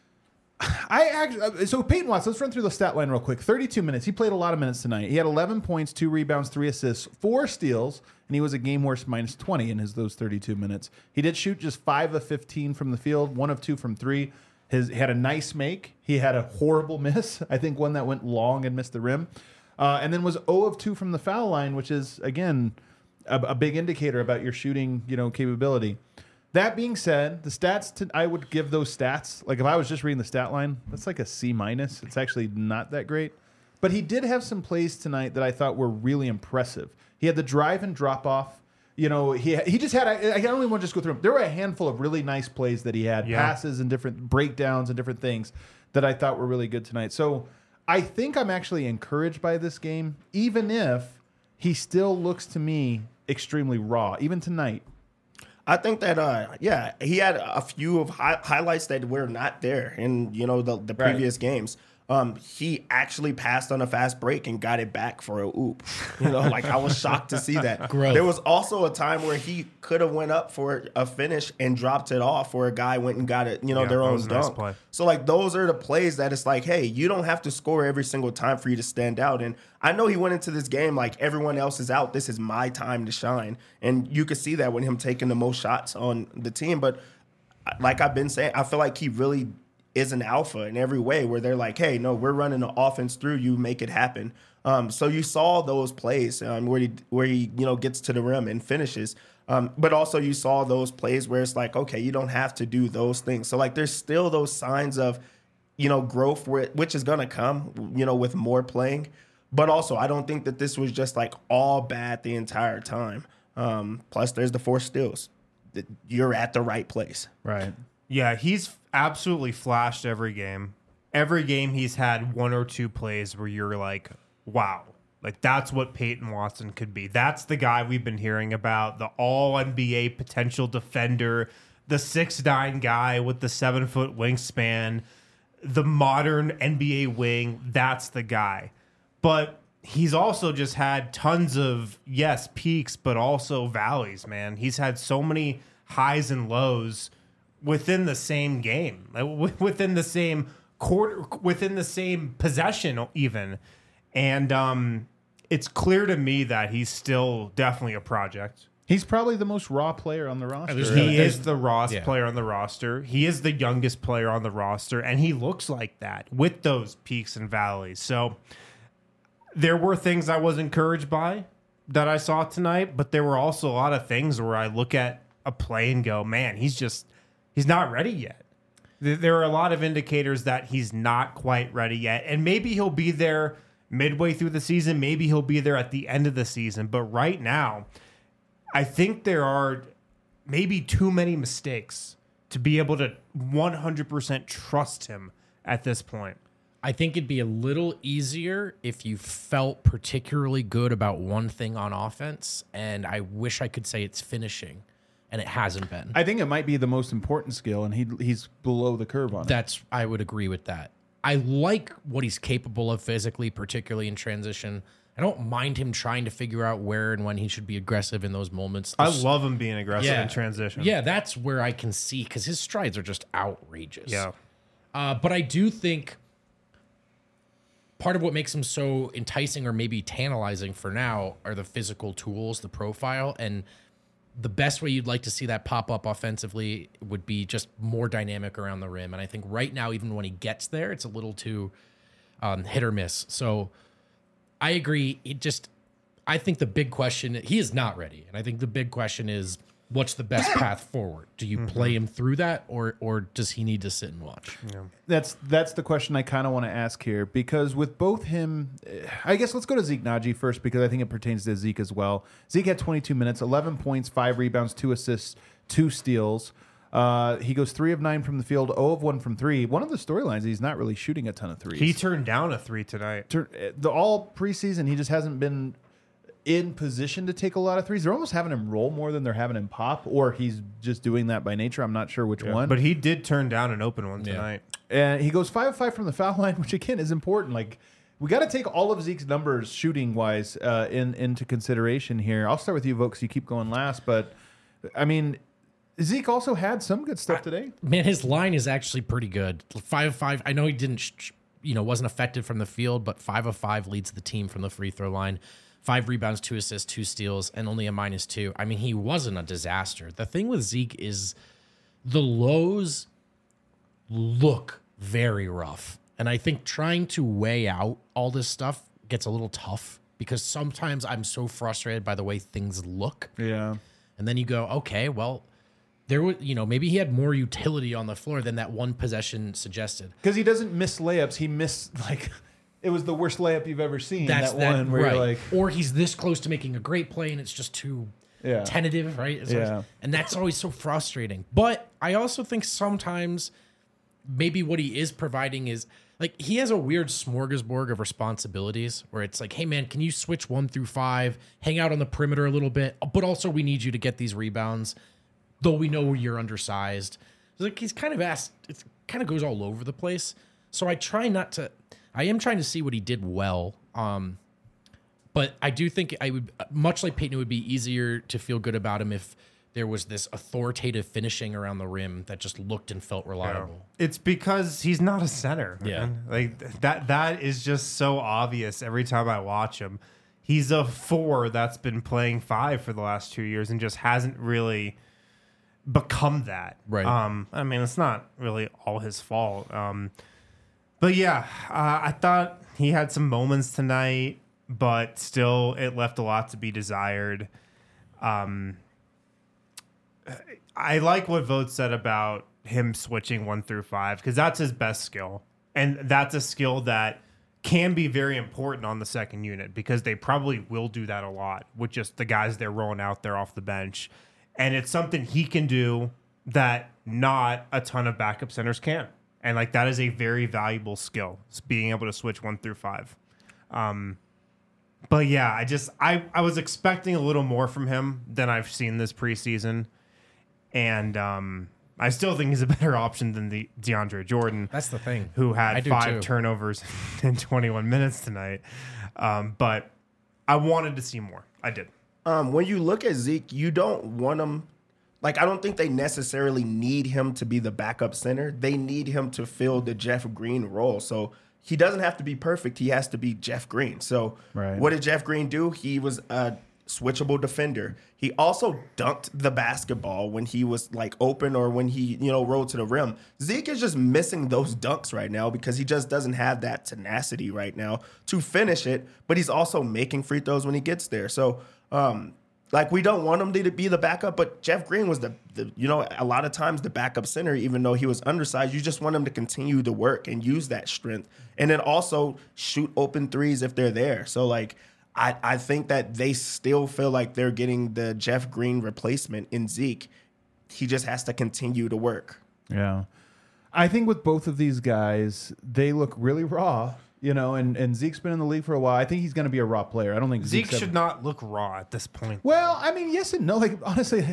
So Peyton Watson, let's run through the stat line real quick. 32 minutes. He played a lot of minutes tonight. He had 11 points, 2 rebounds, 3 assists, 4 steals, and he was a game worst minus 20 in those 32 minutes. He did shoot just 5 of 15 from the field, 1 of 2 from 3. He had a nice make. He had a horrible miss. I think one that went long and missed the rim. And then was 0 of 2 from the foul line, which is, again, a big indicator about your shooting, capability. That being said, the stats, I would give those stats, like if I was just reading the stat line, that's like a C-. It's actually not that great. But he did have some plays tonight that I thought were really impressive. He had the drive and drop off. He just had, I don't even want to just go through them. There were a handful of really nice plays that he had, passes and different breakdowns and different things that I thought were really good tonight. So I think I'm actually encouraged by this game, even if he still looks to me extremely raw, even tonight. I think that, he had a few of highlights that were not there in, the previous games. he actually passed on a fast break and got it back for a oop. Like I was shocked to see that. Growth. There was also a time where he could have went up for a finish and dropped it off, where a guy went and got it, their that own was a nice dunk. play. So like those are the plays that it's like, hey, you don't have to score every single time for you to stand out. And I know he went into this game like everyone else is out. This is my time to shine. And you could see that when him taking the most shots on the team. But like I've been saying, I feel like he really is an alpha in every way, where they're like, hey, no, we're running the offense through you, make it happen. So you saw those plays where he gets to the rim and finishes. But also you saw those plays where it's like, okay, you don't have to do those things. So like there's still those signs of, growth which is going to come, with more playing. But also I don't think that this was just like all bad the entire time. Plus there's the 4 steals. You're at the right place. Right. Yeah, he's absolutely flashed every game. Every game he's had 1 or 2 plays where you're like, wow, like that's what Peyton Watson could be. That's the guy we've been hearing about, the all-NBA potential defender, the 6'9" guy with the 7-foot wingspan, the modern NBA wing. That's the guy. But he's also just had tons of, yes, peaks, but also valleys, man. He's had so many highs and lows within the same game, within the same quarter, within the same possession even. And it's clear to me that he's still definitely a project. He's probably the most raw player on the roster. He is the rawest player on the roster. He is the youngest player on the roster, and he looks like that with those peaks and valleys. So there were things I was encouraged by that I saw tonight, but there were also a lot of things where I look at a play and go, man, he's not ready yet. There are a lot of indicators that he's not quite ready yet. And maybe he'll be there midway through the season. Maybe he'll be there at the end of the season. But right now, I think there are maybe too many mistakes to be able to 100% trust him at this point. I think it'd be a little easier if you felt particularly good about one thing on offense. And I wish I could say it's finishing. And it hasn't been. I think it might be the most important skill, and he's below the curve on it. I would agree with that. I like what he's capable of physically, particularly in transition. I don't mind him trying to figure out where and when he should be aggressive in those moments. I love him being aggressive in transition. Yeah, that's where I can see, because his strides are just outrageous. Yeah. But I do think part of what makes him so enticing or maybe tantalizing for now are the physical tools, the profile, and the best way you'd like to see that pop up offensively would be just more dynamic around the rim. And I think right now, even when he gets there, it's a little too hit or miss. So I agree. I think the big question, he is not ready. And I think the big question is, what's the best path forward? Do you play him through that, or does he need to sit and watch? Yeah. That's the question I kind of want to ask here, because with both him, I guess let's go to Zeke Naji first, because I think it pertains to Zeke as well. Zeke had 22 minutes, 11 points, 5 rebounds, 2 assists, 2 steals. He goes 3 of 9 from the field, 0 of 1 from 3. One of the storylines, he's not really shooting a ton of threes. He turned down a 3 tonight. All preseason, he just hasn't been in position to take a lot of threes. They're almost having him roll more than they're having him pop, or he's just doing that by nature. I'm not sure which one. But he did turn down an open one tonight. And he goes 5 of 5 from the foul line, which again is important. Like, we got to take all of Zeke's numbers shooting wise into consideration here. I'll start with you, Vokes. You keep going last, but I mean, Zeke also had some good stuff today. Man, his line is actually pretty good. 5 of 5. I know he didn't, wasn't effective from the field, but 5 of 5 leads the team from the free throw line. 5 rebounds, 2 assists, 2 steals, and only a -2. I mean, he wasn't a disaster. The thing with Zeke is the lows look very rough. And I think trying to weigh out all this stuff gets a little tough, because sometimes I'm so frustrated by the way things look. Yeah. And then you go, okay, well, there was, maybe he had more utility on the floor than that one possession suggested. Because he doesn't miss layups. He missed, it was the worst layup you've ever seen. That's that one where you're like, or he's this close to making a great play and it's just too tentative, right? And that's always so frustrating. But I also think sometimes maybe what he is providing is, like, he has a weird smorgasbord of responsibilities where it's like, hey man, can you switch 1 through 5, hang out on the perimeter a little bit, but also we need you to get these rebounds, though we know you're undersized. Like, he's kind of asked, it kind of goes all over the place. So I try not to, I am trying to see what he did well. But I do think I would, much like Peyton, it would be easier to feel good about him if there was this authoritative finishing around the rim that just looked and felt reliable. It's because he's not a center. Yeah. Man. Like that is just so obvious every time I watch him. He's a 4 that's been playing 5 for the last 2 years and just hasn't really become that. Right. I mean, it's not really all his fault. But yeah, I thought he had some moments tonight, but still it left a lot to be desired. I like what Vogt said about him switching 1 through 5 because that's his best skill. And that's a skill that can be very important on the second unit because they probably will do that a lot with just the guys they're rolling out there off the bench. And it's something he can do that not a ton of backup centers can. And like that is a very valuable skill, being able to switch 1 through 5. But yeah, I was expecting a little more from him than I've seen this preseason. And I still think he's a better option than the DeAndre Jordan. That's the thing. Who I had do 5 too. turnovers in 21 minutes tonight. But I wanted to see more. I did. When you look at Zeke, you don't want him. Like, I don't think they necessarily need him to be the backup center. They need him to fill the Jeff Green role. So he doesn't have to be perfect. He has to be Jeff Green. So what did Jeff Green do? He was a switchable defender. He also dunked the basketball when he was like open or when he, rolled to the rim. Zeke is just missing those dunks right now because he just doesn't have that tenacity right now to finish it, but he's also making free throws when he gets there. So, we don't want him to be the backup, but Jeff Green was the a lot of times the backup center, even though he was undersized. You just want him to continue to work and use that strength and then also shoot open threes if they're there. So, I think that they still feel like they're getting the Jeff Green replacement in Zeke. He just has to continue to work. Yeah. I think with both of these guys, they look really raw, and Zeke's been in the league for a while. I think he's going to be a raw player. I don't think Zeke should not look raw at this point. Well, I mean, yes and no. Like, honestly,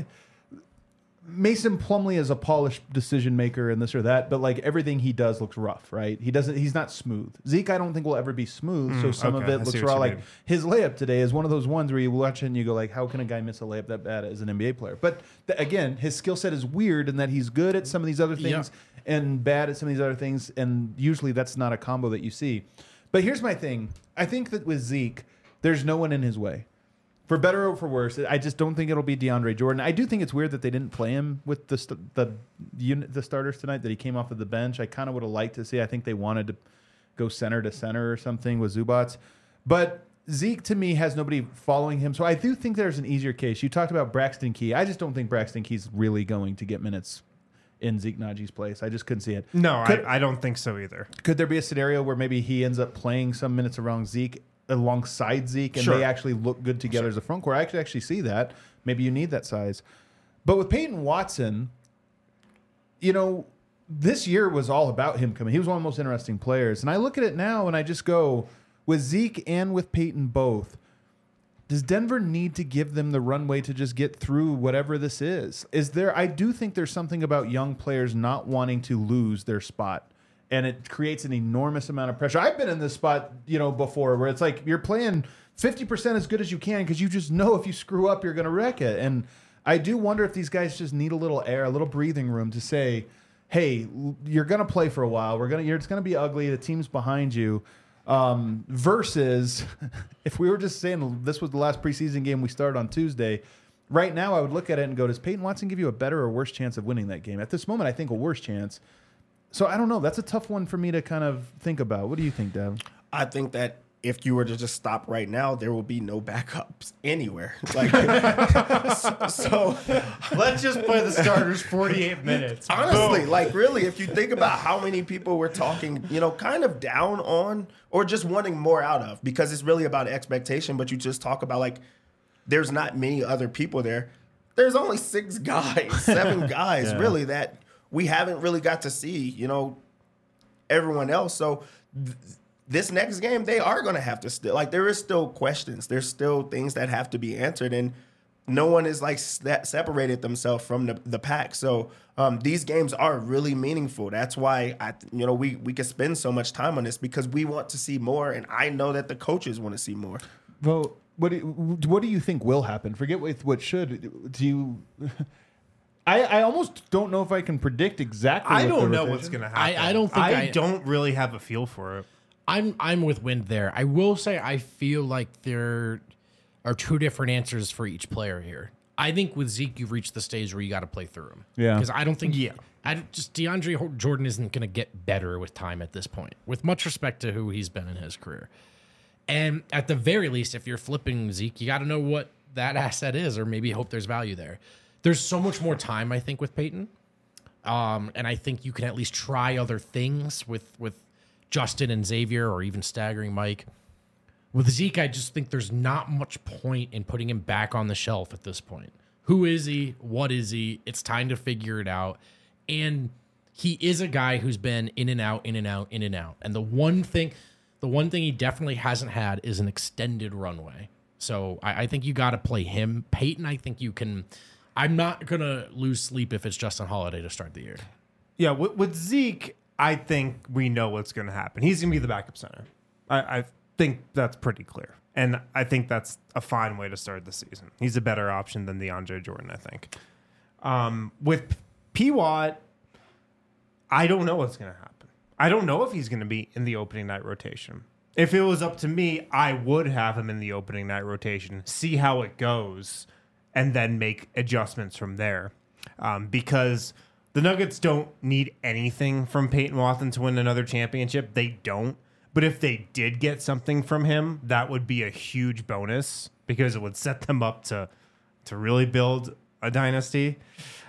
Mason Plumlee is a polished decision maker and this or that, but like everything he does looks rough, right? He's not smooth. Zeke, I don't think will ever be smooth. So some of it looks raw. Like his layup today is one of those ones where you watch it and you go like, how can a guy miss a layup that bad as an NBA player? But again, his skill set is weird in that he's good at some of these other things and bad at some of these other things. And usually that's not a combo that you see. But here's my thing. I think that with Zeke, there's no one in his way. For better or for worse, I just don't think it'll be DeAndre Jordan. I do think it's weird that they didn't play him with the starters tonight, that he came off of the bench. I kind of would have liked to see. I think they wanted to go center to center or something with Zubats. But Zeke, to me, has nobody following him. So I do think there's an easier case. You talked about Braxton Key. I just don't think Braxton Key's really going to get minutes in Zeke Najee's place. I just couldn't see it. No, I don't think so either. Could there be a scenario where maybe he ends up playing some minutes alongside Zeke, and they actually look good together as a front court? I could actually see that. Maybe you need that size. But with Peyton Watson, this year was all about him coming. He was one of the most interesting players. And I look at it now and I just go, with Zeke and with Peyton both, does Denver need to give them the runway to just get through whatever this is? I do think there's something about young players not wanting to lose their spot. And it creates an enormous amount of pressure. I've been in this spot, before, where it's like you're playing 50% as good as you can because you just know if you screw up, you're going to wreck it. And I do wonder if these guys just need a little air, a little breathing room to say, hey, you're going to play for a while. It's going to be ugly. The team's behind you. Versus if we were just saying this was the last preseason game we started on Tuesday, right now I would look at it and go, does Peyton Watson give you a better or worse chance of winning that game? At this moment, I think a worse chance. So I don't know. That's a tough one for me to kind of think about. What do you think, Dev? I think that if you were to just stop right now, there will be no backups anywhere. So let's just play the starters 48 minutes. Honestly, really, if you think about how many people we're talking, kind of down on or just wanting more out of, because it's really about expectation, but you just talk about there's not many other people there. There's only 6 guys, 7 guys, really, that we haven't really got to see, everyone else. So this next game, they are going to have to still, there is still questions. There's still things that have to be answered. And no one is like separated themselves from the pack. So these games are really meaningful. That's why we can spend so much time on this because we want to see more, and I know that the coaches want to see more. Well, what do you think will happen? Forget what should. Do you? I almost don't know if I can predict exactly. I don't know what's going to happen. I don't think I don't really have a feel for it. I'm with Wind there. I will say I feel like there are two different answers for each player here. I think with Zeke, you've reached the stage where you got to play through him. Yeah. Because I don't think DeAndre Jordan isn't going to get better with time at this point, with much respect to who he's been in his career. And at the very least, if you're flipping Zeke, you got to know what that asset is, or maybe hope there's value there. There's so much more time, I think, with Peyton. And I think you can at least try other things with Justin and Xavier, or even staggering Mike. With Zeke, I just think there's not much point in putting him back on the shelf at this point. Who is he? What is he? It's time to figure it out. And he is a guy who's been in and out, in and out, in and out. And the one thing he definitely hasn't had is an extended runway. So I think you got to play him. Peyton, I think you can. I'm not going to lose sleep if it's Justin Holiday to start the year. Yeah, with Zeke, I think we know what's going to happen. He's going to be the backup center. I think that's pretty clear. And I think that's a fine way to start the season. He's a better option than DeAndre Jordan, I think. With P-Watt, I don't know what's going to happen. I don't know if he's going to be in the opening night rotation. If it was up to me, I would have him in the opening night rotation, see how it goes, and then make adjustments from there. Because the Nuggets don't need anything from Peyton Watson to win another championship. They don't. But if they did get something from him, that would be a huge bonus because it would set them up to really build a dynasty.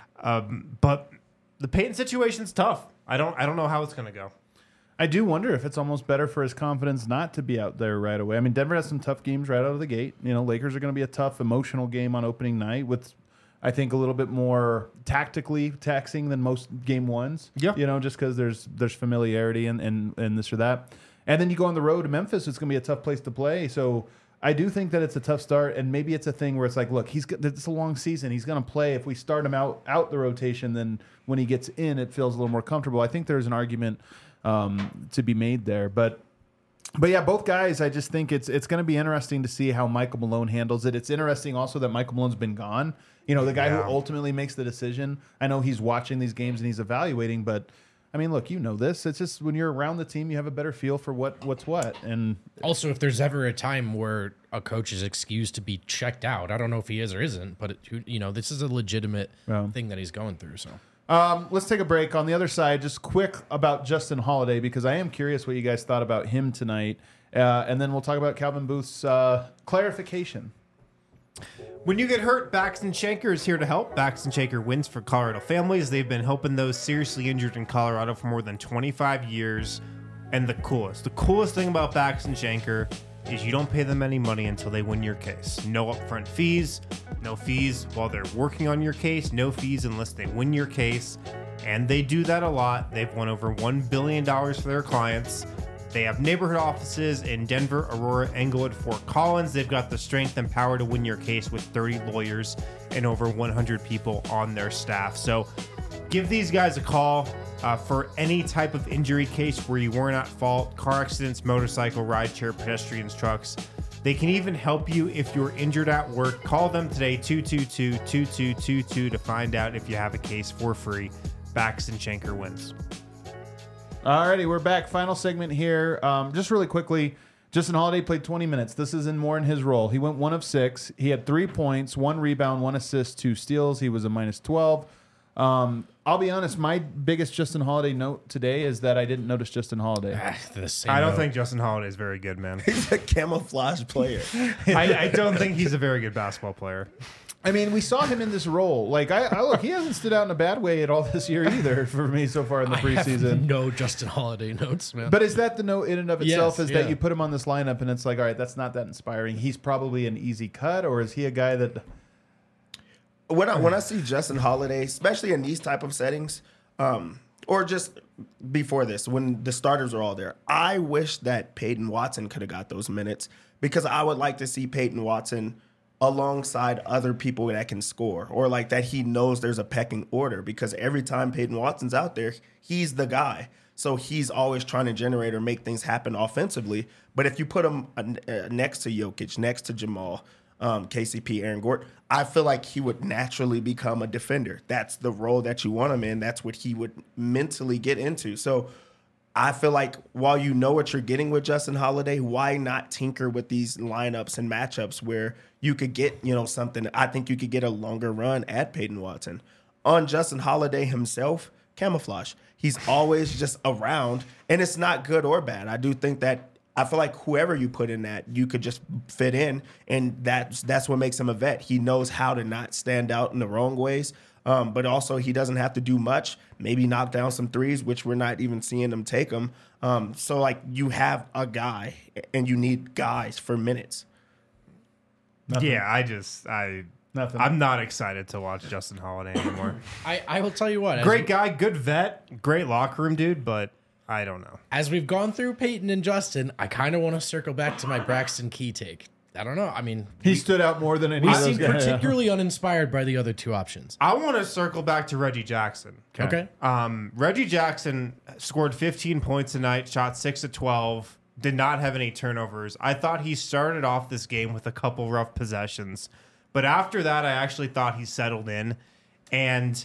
But the Peyton situation's tough. I don't know how it's going to go. I do wonder if it's almost better for his confidence not to be out there right away. I mean, Denver has some tough games right out of the gate. You know, Lakers are going to be a tough, emotional game on opening night with, I think, a little bit more tactically taxing than most game ones. Yeah. You know, just because there's familiarity and this or that. And then you go on the road to Memphis. It's going to be a tough place to play. So I do think that it's a tough start, and maybe it's a thing where it's like, look, it's a long season. He's going to play. If we start him out the rotation, then when he gets in, it feels a little more comfortable. I think there's an argument to be made there. But yeah, both guys, I just think it's going to be interesting to see how Michael Malone handles it. It's interesting also that Michael Malone's been gone. You know, the guy who ultimately makes the decision. I know he's watching these games and he's evaluating, but I mean, look, you know this. It's just when you're around the team, you have a better feel for what's what. And also, if there's ever a time where a coach is excused to be checked out, I don't know if he is or isn't, but this is a legitimate thing that he's going through. So let's take a break. On the other side, just quick about Justin Holiday, because I am curious what you guys thought about him tonight, and then we'll talk about Calvin Booth's clarification. When you get hurt, Baxton Shanker is here to help. Baxton Shanker wins for Colorado families. They've been helping those seriously injured in Colorado for more than 25 years. And the coolest thing about Baxton Shanker is you don't pay them any money until they win your case. No upfront fees, no fees while they're working on your case, no fees unless they win your case. And they do that a lot. They've won over $1 billion for their clients. They have neighborhood offices in Denver, Aurora, Englewood, Fort Collins. They've got the strength and power to win your case with 30 lawyers and over 100 people on their staff. So give these guys a call for any type of injury case where you weren't at fault: car accidents, motorcycle, rideshare, pedestrians, trucks. They can even help you if you're injured at work. Call them today, 222-2222, to find out if you have a case for free. Baxton Shanker wins. Alrighty, we're back. Final segment here. Just really quickly, Justin Holiday played 20 minutes. This is more in his role. He went 1 of 6. He had 3 points, 1 rebound, 1 assist, 2 steals. He was a -12. I'll be honest, my biggest Justin Holiday note today is that I didn't notice Justin Holiday. I don't think Justin Holiday is very good, man. He's a camouflage player. I don't think he's a very good basketball player. I mean, we saw him in this role. Like, I look, he hasn't stood out in a bad way at all this year either for me so far in the preseason. I have no Justin Holiday notes, man. But is that the note in and of itself? Yes, that you put him on this lineup and it's like, all right, that's not that inspiring. He's probably an easy cut, or is he a guy that? When I see Justin Holiday, especially in these type of settings, or just before this, when the starters are all there, I wish that Peyton Watson could have got those minutes, because I would like to see Peyton Watson alongside other people that can score, or like that he knows there's a pecking order, because every time Peyton Watson's out there, he's the guy. So he's always trying to generate or make things happen offensively. But if you put him next to Jokic, next to Jamal, KCP, Aaron Gordon, I feel like he would naturally become a defender. That's the role that you want him in. That's what he would mentally get into. So I feel like while you know what you're getting with Justin Holiday, why not tinker with these lineups and matchups where you could get, something? I think you could get a longer run at Peyton Watson. On Justin Holiday himself, camouflage. He's always just around, and it's not good or bad. I do think that I feel like whoever you put in that, you could just fit in, and that's what makes him a vet. He knows how to not stand out in the wrong ways, but also he doesn't have to do much. Maybe knock down some threes, which we're not even seeing him take them. So, like, you have a guy, and you need guys for minutes. Nothing. Yeah, Nothing. I'm not excited to watch Justin Holiday anymore. I will tell you what. Great guy, good vet, great locker room dude, but I don't know. As we've gone through Peyton and Justin, I kind of want to circle back to my Braxton Key take. I don't know. I mean, he stood out more than any we of those seem guys. particularly uninspired by the other two options. I want to circle back to Reggie Jackson. Okay. Reggie Jackson scored 15 points tonight, shot 6 of 12, did not have any turnovers. I thought he started off this game with a couple rough possessions, but after that, I actually thought he settled in, and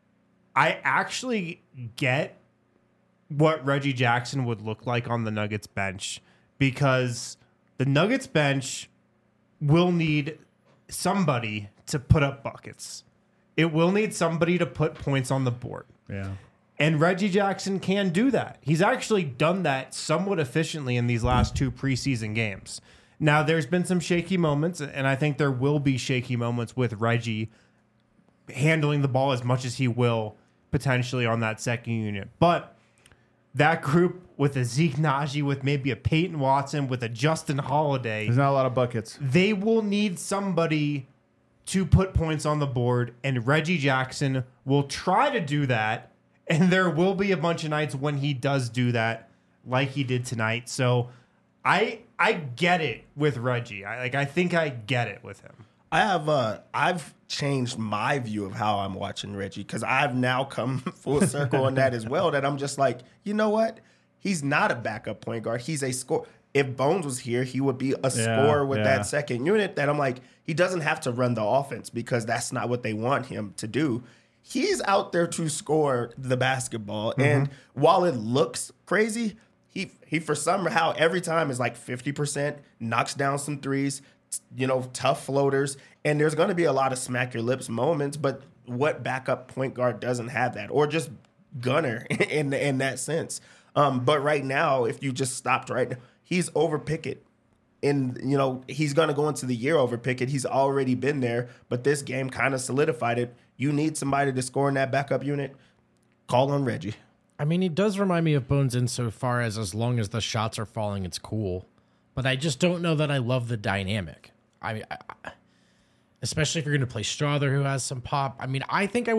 I actually get what Reggie Jackson would look like on the Nuggets bench, because the Nuggets bench will need somebody to put up buckets. It will need somebody to put points on the board. Yeah. And Reggie Jackson can do that. He's actually done that somewhat efficiently in these last two preseason games. Now, there's been some shaky moments, and I think there will be shaky moments with Reggie handling the ball as much as he will potentially on that second unit. But that group with a Zeke Naji, with maybe a Peyton Watson, with a Justin Holiday, There's not a lot of buckets. they will need somebody to put points on the board, and Reggie Jackson will try to do that, and there will be a bunch of nights when he does do that, like he did tonight. So I get it with Reggie. I think I get it with him. I've changed my view of how I'm watching Reggie, because I've now come full circle on that as well, that I'm just like, you know what? He's not a backup point guard. He's a scorer. If Bones was here, he would be a scorer with that second unit, that I'm like, he doesn't have to run the offense, because that's not what they want him to do. He's out there to score the basketball. Mm-hmm. And while it looks crazy, he for somehow every time is like 50%, knocks down some threes, tough floaters, and there's going to be a lot of smack your lips moments, but what backup point guard doesn't have that, or just gunner in that sense? But right now, if you just stopped right now, he's over Pickett. And, he's going to go into the year over Pickett. He's already been there, but this game kind of solidified it. You need somebody to score in that backup unit, call on Reggie. I mean, he does remind me of Bones insofar as long as the shots are falling, it's cool. But I just don't know that I love the dynamic. I mean, especially if you're going to play Strother, who has some pop. I mean, I think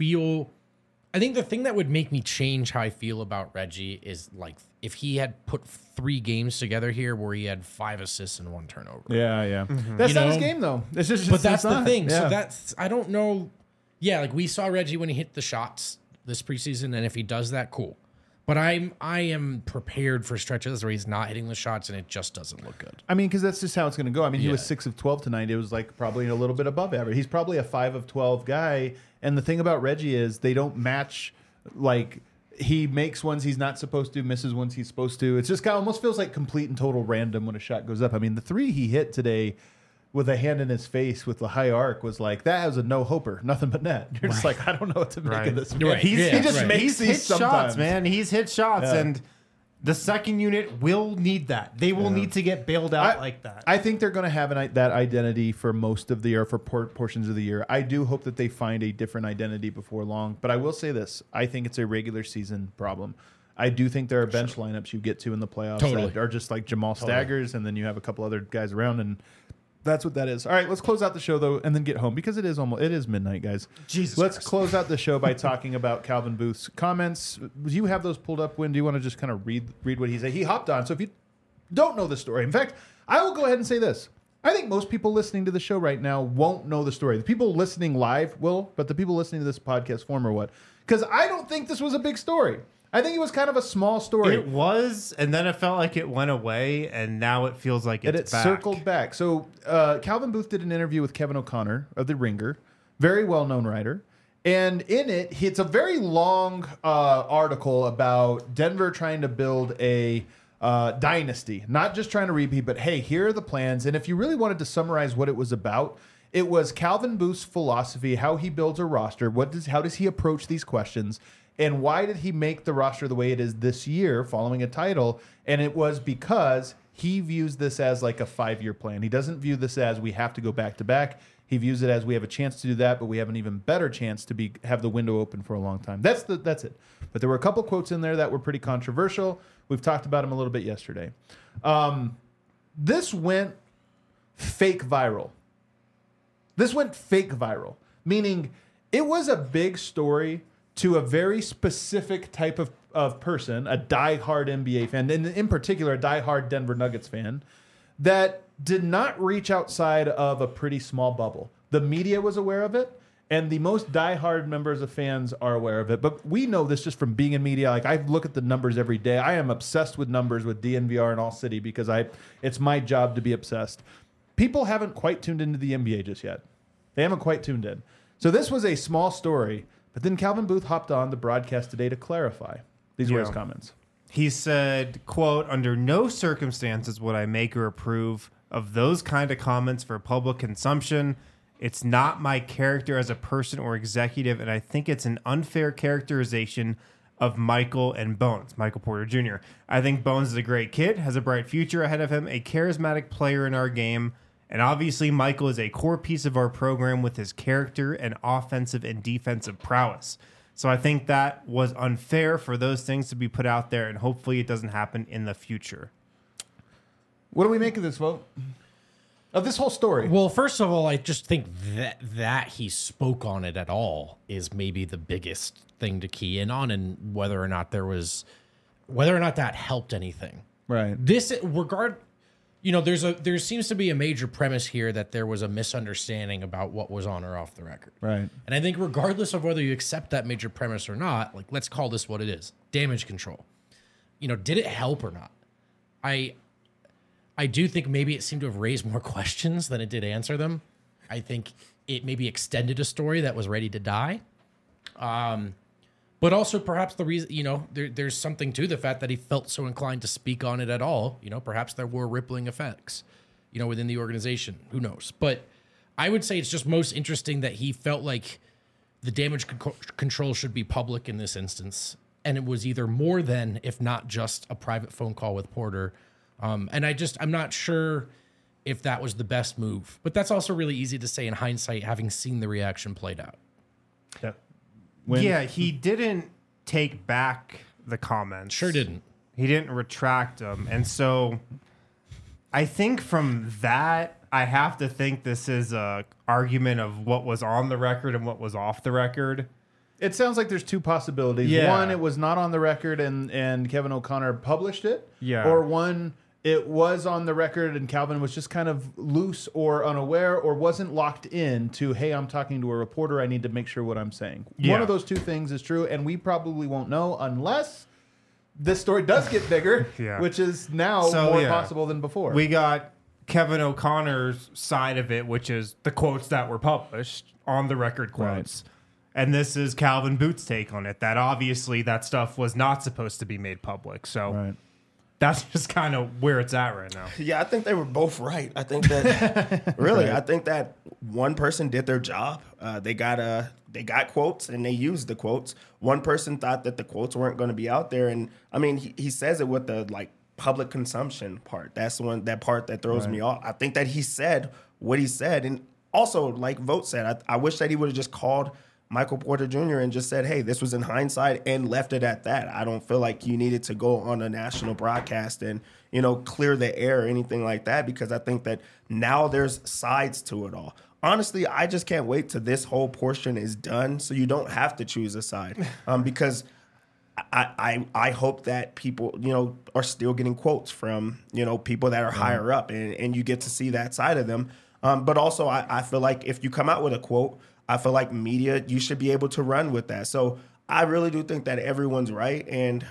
the thing that would make me change how I feel about Reggie is like if he had put 3 games together here where he had 5 assists and 1 turnover. Yeah. That's not his game, though. It's just, but that's the thing. Yeah. So that's, I don't know. Yeah, like we saw Reggie when he hit the shots this preseason, and if he does that, cool. But I am prepared for stretches where he's not hitting the shots and it just doesn't look good. I mean, because that's just how it's going to go. I mean, he Yeah. was 6 of 12 tonight. It was like probably a little bit above average. He's probably a 5 of 12 guy. And the thing about Reggie is they don't match. Like, he makes ones he's not supposed to, misses ones he's supposed to. It's just kind of almost feels like complete and total random when a shot goes up. I mean, the 3 he hit today with a hand in his face with the high arc was like, that was a no-hoper, nothing but net. You're just like, I don't know what to make of this. Right. He just makes He's these hit sometimes. shots, man. He's hit shots, Yeah. and the second unit will need that. They will need to get bailed out like that. I think they're going to have that identity for most of the year, for portions of the year. I do hope that they find a different identity before long. But I will say this. I think it's a regular season problem. I do think there are bench lineups you get to in the playoffs that are just like Jamal Staggers, and then you have a couple other guys around, and that's what that is. All right, let's close out the show, though, and then get home, because it is midnight, guys. Let's close out the show by talking about Calvin Booth's comments. Do you have those pulled up, Win? Do you want to just kind of read what he said? He hopped on. So if you don't know the story, in fact, I will go ahead and say this. I think most people listening to the show right now won't know the story. The people listening live will, but the people listening to this podcast form or what? Because I don't think this was a big story. I think it was kind of a small story. It was, and then it felt like it went away, and now it feels like it's back. Circled back. So Calvin Booth did an interview with Kevin O'Connor of The Ringer, very well-known writer. And in it, it's a very long article about Denver trying to build a dynasty. Not just trying to repeat, but hey, here are the plans. And if you really wanted to summarize what it was about, it was Calvin Booth's philosophy, how he builds a roster, how does he approach these questions, and why did he make the roster the way it is this year following a title? And it was because he views this as like a 5-year plan. He doesn't view this as we have to go back to back. He views it as we have a chance to do that, but we have an even better chance to have the window open for a long time. That's it. But there were a couple quotes in there that were pretty controversial. We've talked about them a little bit yesterday. This went fake viral. Meaning it was a big story to a very specific type of person, a diehard NBA fan, and in particular, a diehard Denver Nuggets fan, that did not reach outside of a pretty small bubble. The media was aware of it, and the most diehard members of fans are aware of it. But we know this just from being in media. Like, I look at the numbers every day. I am obsessed with numbers with DNVR and All City because it's my job to be obsessed. People haven't quite tuned into the NBA just yet. They haven't quite tuned in. So this was a small story, but then Calvin Booth hopped on the broadcast today to clarify. These were his comments. He said, quote, "Under no circumstances would I make or approve of those kind of comments for public consumption. It's not my character as a person or executive, and I think it's an unfair characterization of Michael and Bones, Michael Porter Jr. I think Bones is a great kid, has a bright future ahead of him, a charismatic player in our game, and obviously Michael is a core piece of our program with his character and offensive and defensive prowess. So I think that was unfair for those things to be put out there, and hopefully it doesn't happen in the future." What do we make of this, vote? Of this whole story? Well, first of all, I just think that he spoke on it at all is maybe the biggest thing to key in on, and whether or not that helped anything. Right. There seems to be a major premise here that there was a misunderstanding about what was on or off the record. Right. And I think regardless of whether you accept that major premise or not, like, let's call this what it is. Damage control. Did it help or not? I do think maybe it seemed to have raised more questions than it did answer them. I think it maybe extended a story that was ready to die. But also perhaps the reason, there's something to the fact that he felt so inclined to speak on it at all. Perhaps there were rippling effects, within the organization. Who knows? But I would say it's just most interesting that he felt like the damage control should be public in this instance. And it was either more than, if not just a private phone call with Porter. And I'm not sure if that was the best move. But that's also really easy to say in hindsight, having seen the reaction played out. Yeah. He didn't take back the comments. Sure didn't. He didn't retract them. And so I think from that, I have to think this is a argument of what was on the record and what was off the record. It sounds like there's two possibilities. Yeah. One, it was not on the record and Kevin O'Connor published it. Yeah. Or one, it was on the record and Calvin was just kind of loose or unaware or wasn't locked in to, hey, I'm talking to a reporter. I need to make sure what I'm saying. Yeah. One of those two things is true, and we probably won't know unless this story does get bigger, Yeah. which is now more possible than before. We got Kevin O'Connor's side of it, which is the quotes that were published, on the record quotes. Right. And this is Calvin Booth's take on it, that obviously that stuff was not supposed to be made public. So right. That's just kind of where it's at right now. Yeah, I think they were both right. I think that really, I think that one person did their job. They got quotes and they used the quotes. One person thought that the quotes weren't going to be out there, and I mean, he says it with the public consumption part. That's that part that throws me off. I think that he said what he said, and also like Vogt said, I wish that he would have just called Michael Porter Jr. and just said, hey, this was in hindsight, and left it at that. I don't feel like you needed to go on a national broadcast and, clear the air or anything like that, because I think that now there's sides to it all. Honestly, I just can't wait till this whole portion is done so you don't have to choose a side. Because I hope that people, are still getting quotes from, people that are higher up, and you get to see that side of them. But also, I feel like if you come out with a quote, I feel like media, you should be able to run with that. So I really do think that everyone's right. And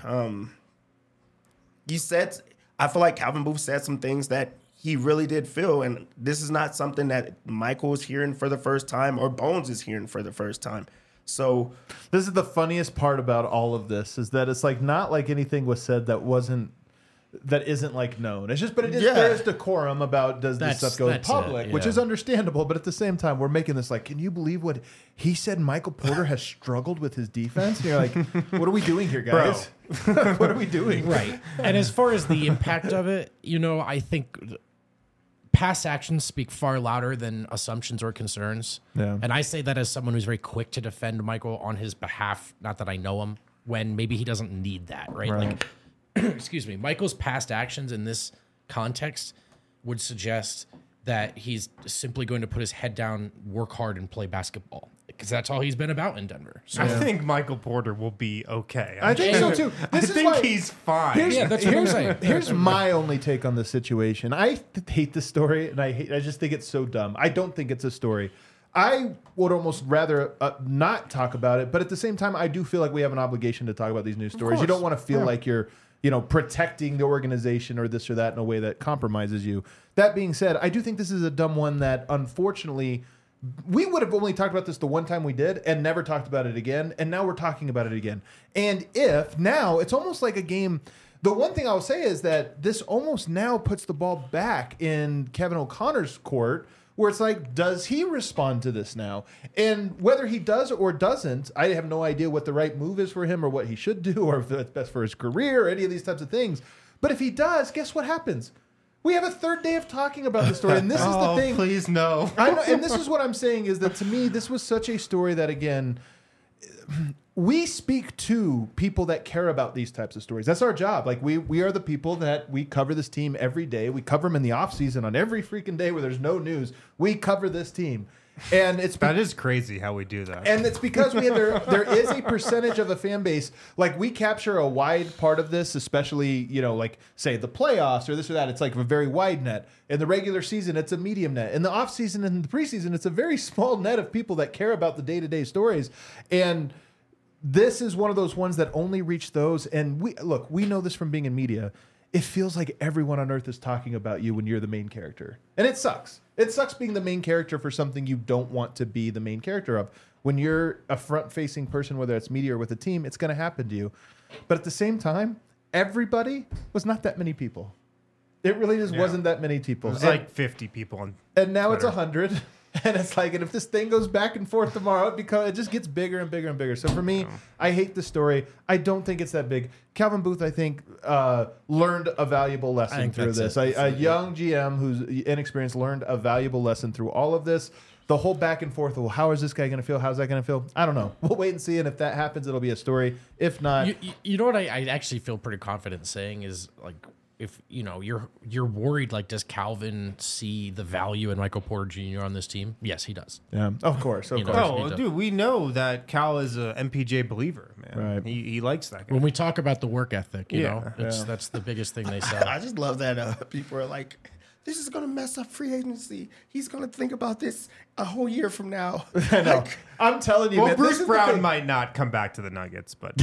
I feel like Calvin Booth said some things that he really did feel. And this is not something that Michael is hearing for the first time or Bones is hearing for the first time. So this is the funniest part about all of this is that it's like not like anything was said that isn't like known. It's just, but it is, there is decorum about does this stuff go in public, which is understandable. But at the same time, we're making this like, can you believe what he said? Michael Porter has struggled with his defense. And you're like, what are we doing here, guys? What are we doing? Right. And as far as the impact of it, I think past actions speak far louder than assumptions or concerns. Yeah. And I say that as someone who's very quick to defend Michael on his behalf, not that I know him, when maybe he doesn't need that, right? Like, excuse me, Michael's past actions in this context would suggest that he's simply going to put his head down, work hard, and play basketball. Because that's all he's been about in Denver. So I think Michael Porter will be okay. I think so too. I think he's fine. that's what I'm saying. Here's my only take on the situation. I hate this story, and I just think it's so dumb. I don't think it's a story. I would almost rather not talk about it, but at the same time, I do feel like we have an obligation to talk about these news stories. You don't want to feel like you're, protecting the organization or this or that in a way that compromises you. That being said, I do think this is a dumb one that, unfortunately, we would have only talked about this the one time we did and never talked about it again, and now we're talking about it again. And now it's almost like a game. The one thing I'll say is that this almost now puts the ball back in Kevin O'Connor's court, where it's like, does he respond to this now? And whether he does or doesn't, I have no idea what the right move is for him or what he should do or if it's best for his career or any of these types of things. But if he does, guess what happens? We have a third day of talking about the story, and this is the thing. Please no. I know, and this is what I'm saying is that to me, this was such a story that, again, we speak to people that care about these types of stories. That's our job. Like we are the people that we cover this team every day. We cover them in the off season on every freaking day where there's no news. We cover this team. And that is crazy how we do that. And it's because there is a percentage of a fan base, like we capture a wide part of this, especially, like say the playoffs or this or that. It's like a very wide net. In the regular season, it's a medium net. In the off season and the preseason, it's a very small net of people that care about the day-to-day stories. And this is one of those ones that only reach those. And we know this from being in media. It feels like everyone on earth is talking about you when you're the main character. And it sucks. It sucks being the main character for something you don't want to be the main character of. When you're a front-facing person, whether it's media or with a team, it's going to happen to you. But at the same time, everybody was not that many people. It really just wasn't that many people. It was like 50 people on And now Twitter. It's 100. And it's like, and if this thing goes back and forth tomorrow, it just gets bigger and bigger and bigger. So for me, I hate the story. I don't think it's that big. Calvin Booth, I think, learned a valuable lesson through this. A young GM who's inexperienced learned a valuable lesson through all of this. The whole back and forth, well, how is this guy going to feel? How's that going to feel? I don't know. We'll wait and see. And if that happens, it'll be a story. If not... You know what I actually feel pretty confident saying is, like, if you're worried, like, does Calvin see the value in Michael Porter Jr. on this team? Yes, he does. Yeah, of course. Oh, dude, we know that Cal is a MPJ believer, man. Right. He likes that guy. When we talk about the work ethic, Yeah. that's the biggest thing they say. I just love that people are like, this is going to mess up free agency. He's going to think about this a whole year from now. I know. I'm telling you, Well, man, Bruce Brown might not come back to the Nuggets, but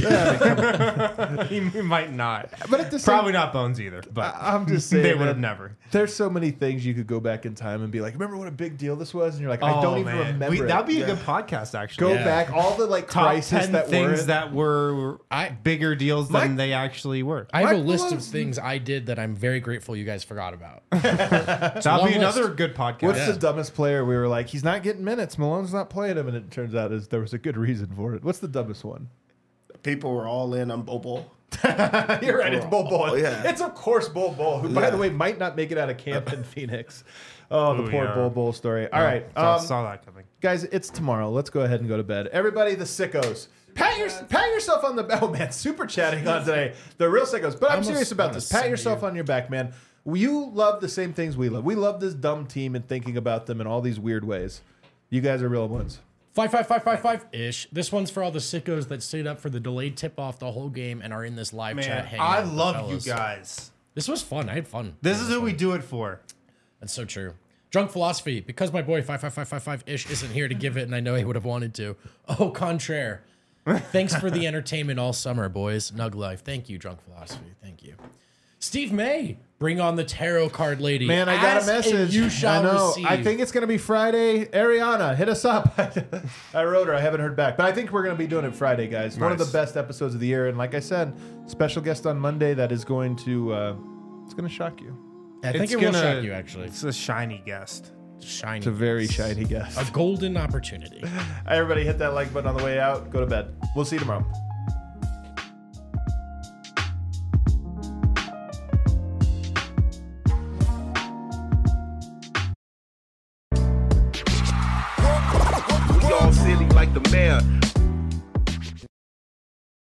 he might not. But at the same, Probably not Bones either. But I'm just saying, they would man, have never. There's so many things you could go back in time and be like, remember what a big deal this was? And you're like, I don't even remember it. That'd be a good podcast, actually. Go back, all the like Top crisis 10 that things that were bigger deals than Mike- they actually were. I have a Mike list of Malone's- things I did that I'm very grateful you guys forgot about. That'll long be another list. good podcast. What's the dumbest player? We were like, he's not getting minutes. Malone's not playing him, and it turns out there was a good reason for it. What's the dumbest one? People were all in on Bobo. You're right. It's Bol Bol. Yeah. It's of course Bol Bol, who by the way might not make it out of camp in Phoenix. Oh, the Ooh, poor yeah. Bol Bol story. All right, saw that coming. guys, it's tomorrow. Let's go ahead and go to bed. Everybody, the sickos. Pat yourself on the back. Oh, man, super chatting on today. The real sickos. But I'm serious about this. Pat yourself on your back, man. You love the same things we love. We love this dumb team and thinking about them in all these weird ways. You guys are real ones. 55555-ish. This one's for all the sickos that stayed up for the delayed tip-off the whole game and are in this live chat Man, hanging I out with the love fellas. you guys. This was fun. I had fun. This is who we do it for. That's so true. Drunk Philosophy, because my boy 55555-ish isn't here to give it, and I know he would have wanted to. Au contraire. Thanks for the entertainment all summer, boys. Nug Life. Thank you, Drunk Philosophy. Thank you. Steve May, bring on the tarot card lady. Man, I got a Ask and message. you shall I know. receive. I think it's going to be Friday. Ariana, hit us up. I wrote her. I haven't heard back. But I think we're going to be doing it Friday, guys. One of the Nice. best episodes of the year. And like I said, special guest on Monday that is going to, it's going to shock you. I think It's it will gonna- shock you, actually. It's a shiny guest. Shiny. It's a very shiny guest. A golden opportunity. Everybody hit that like button on the way out. Go to bed. We'll see you tomorrow.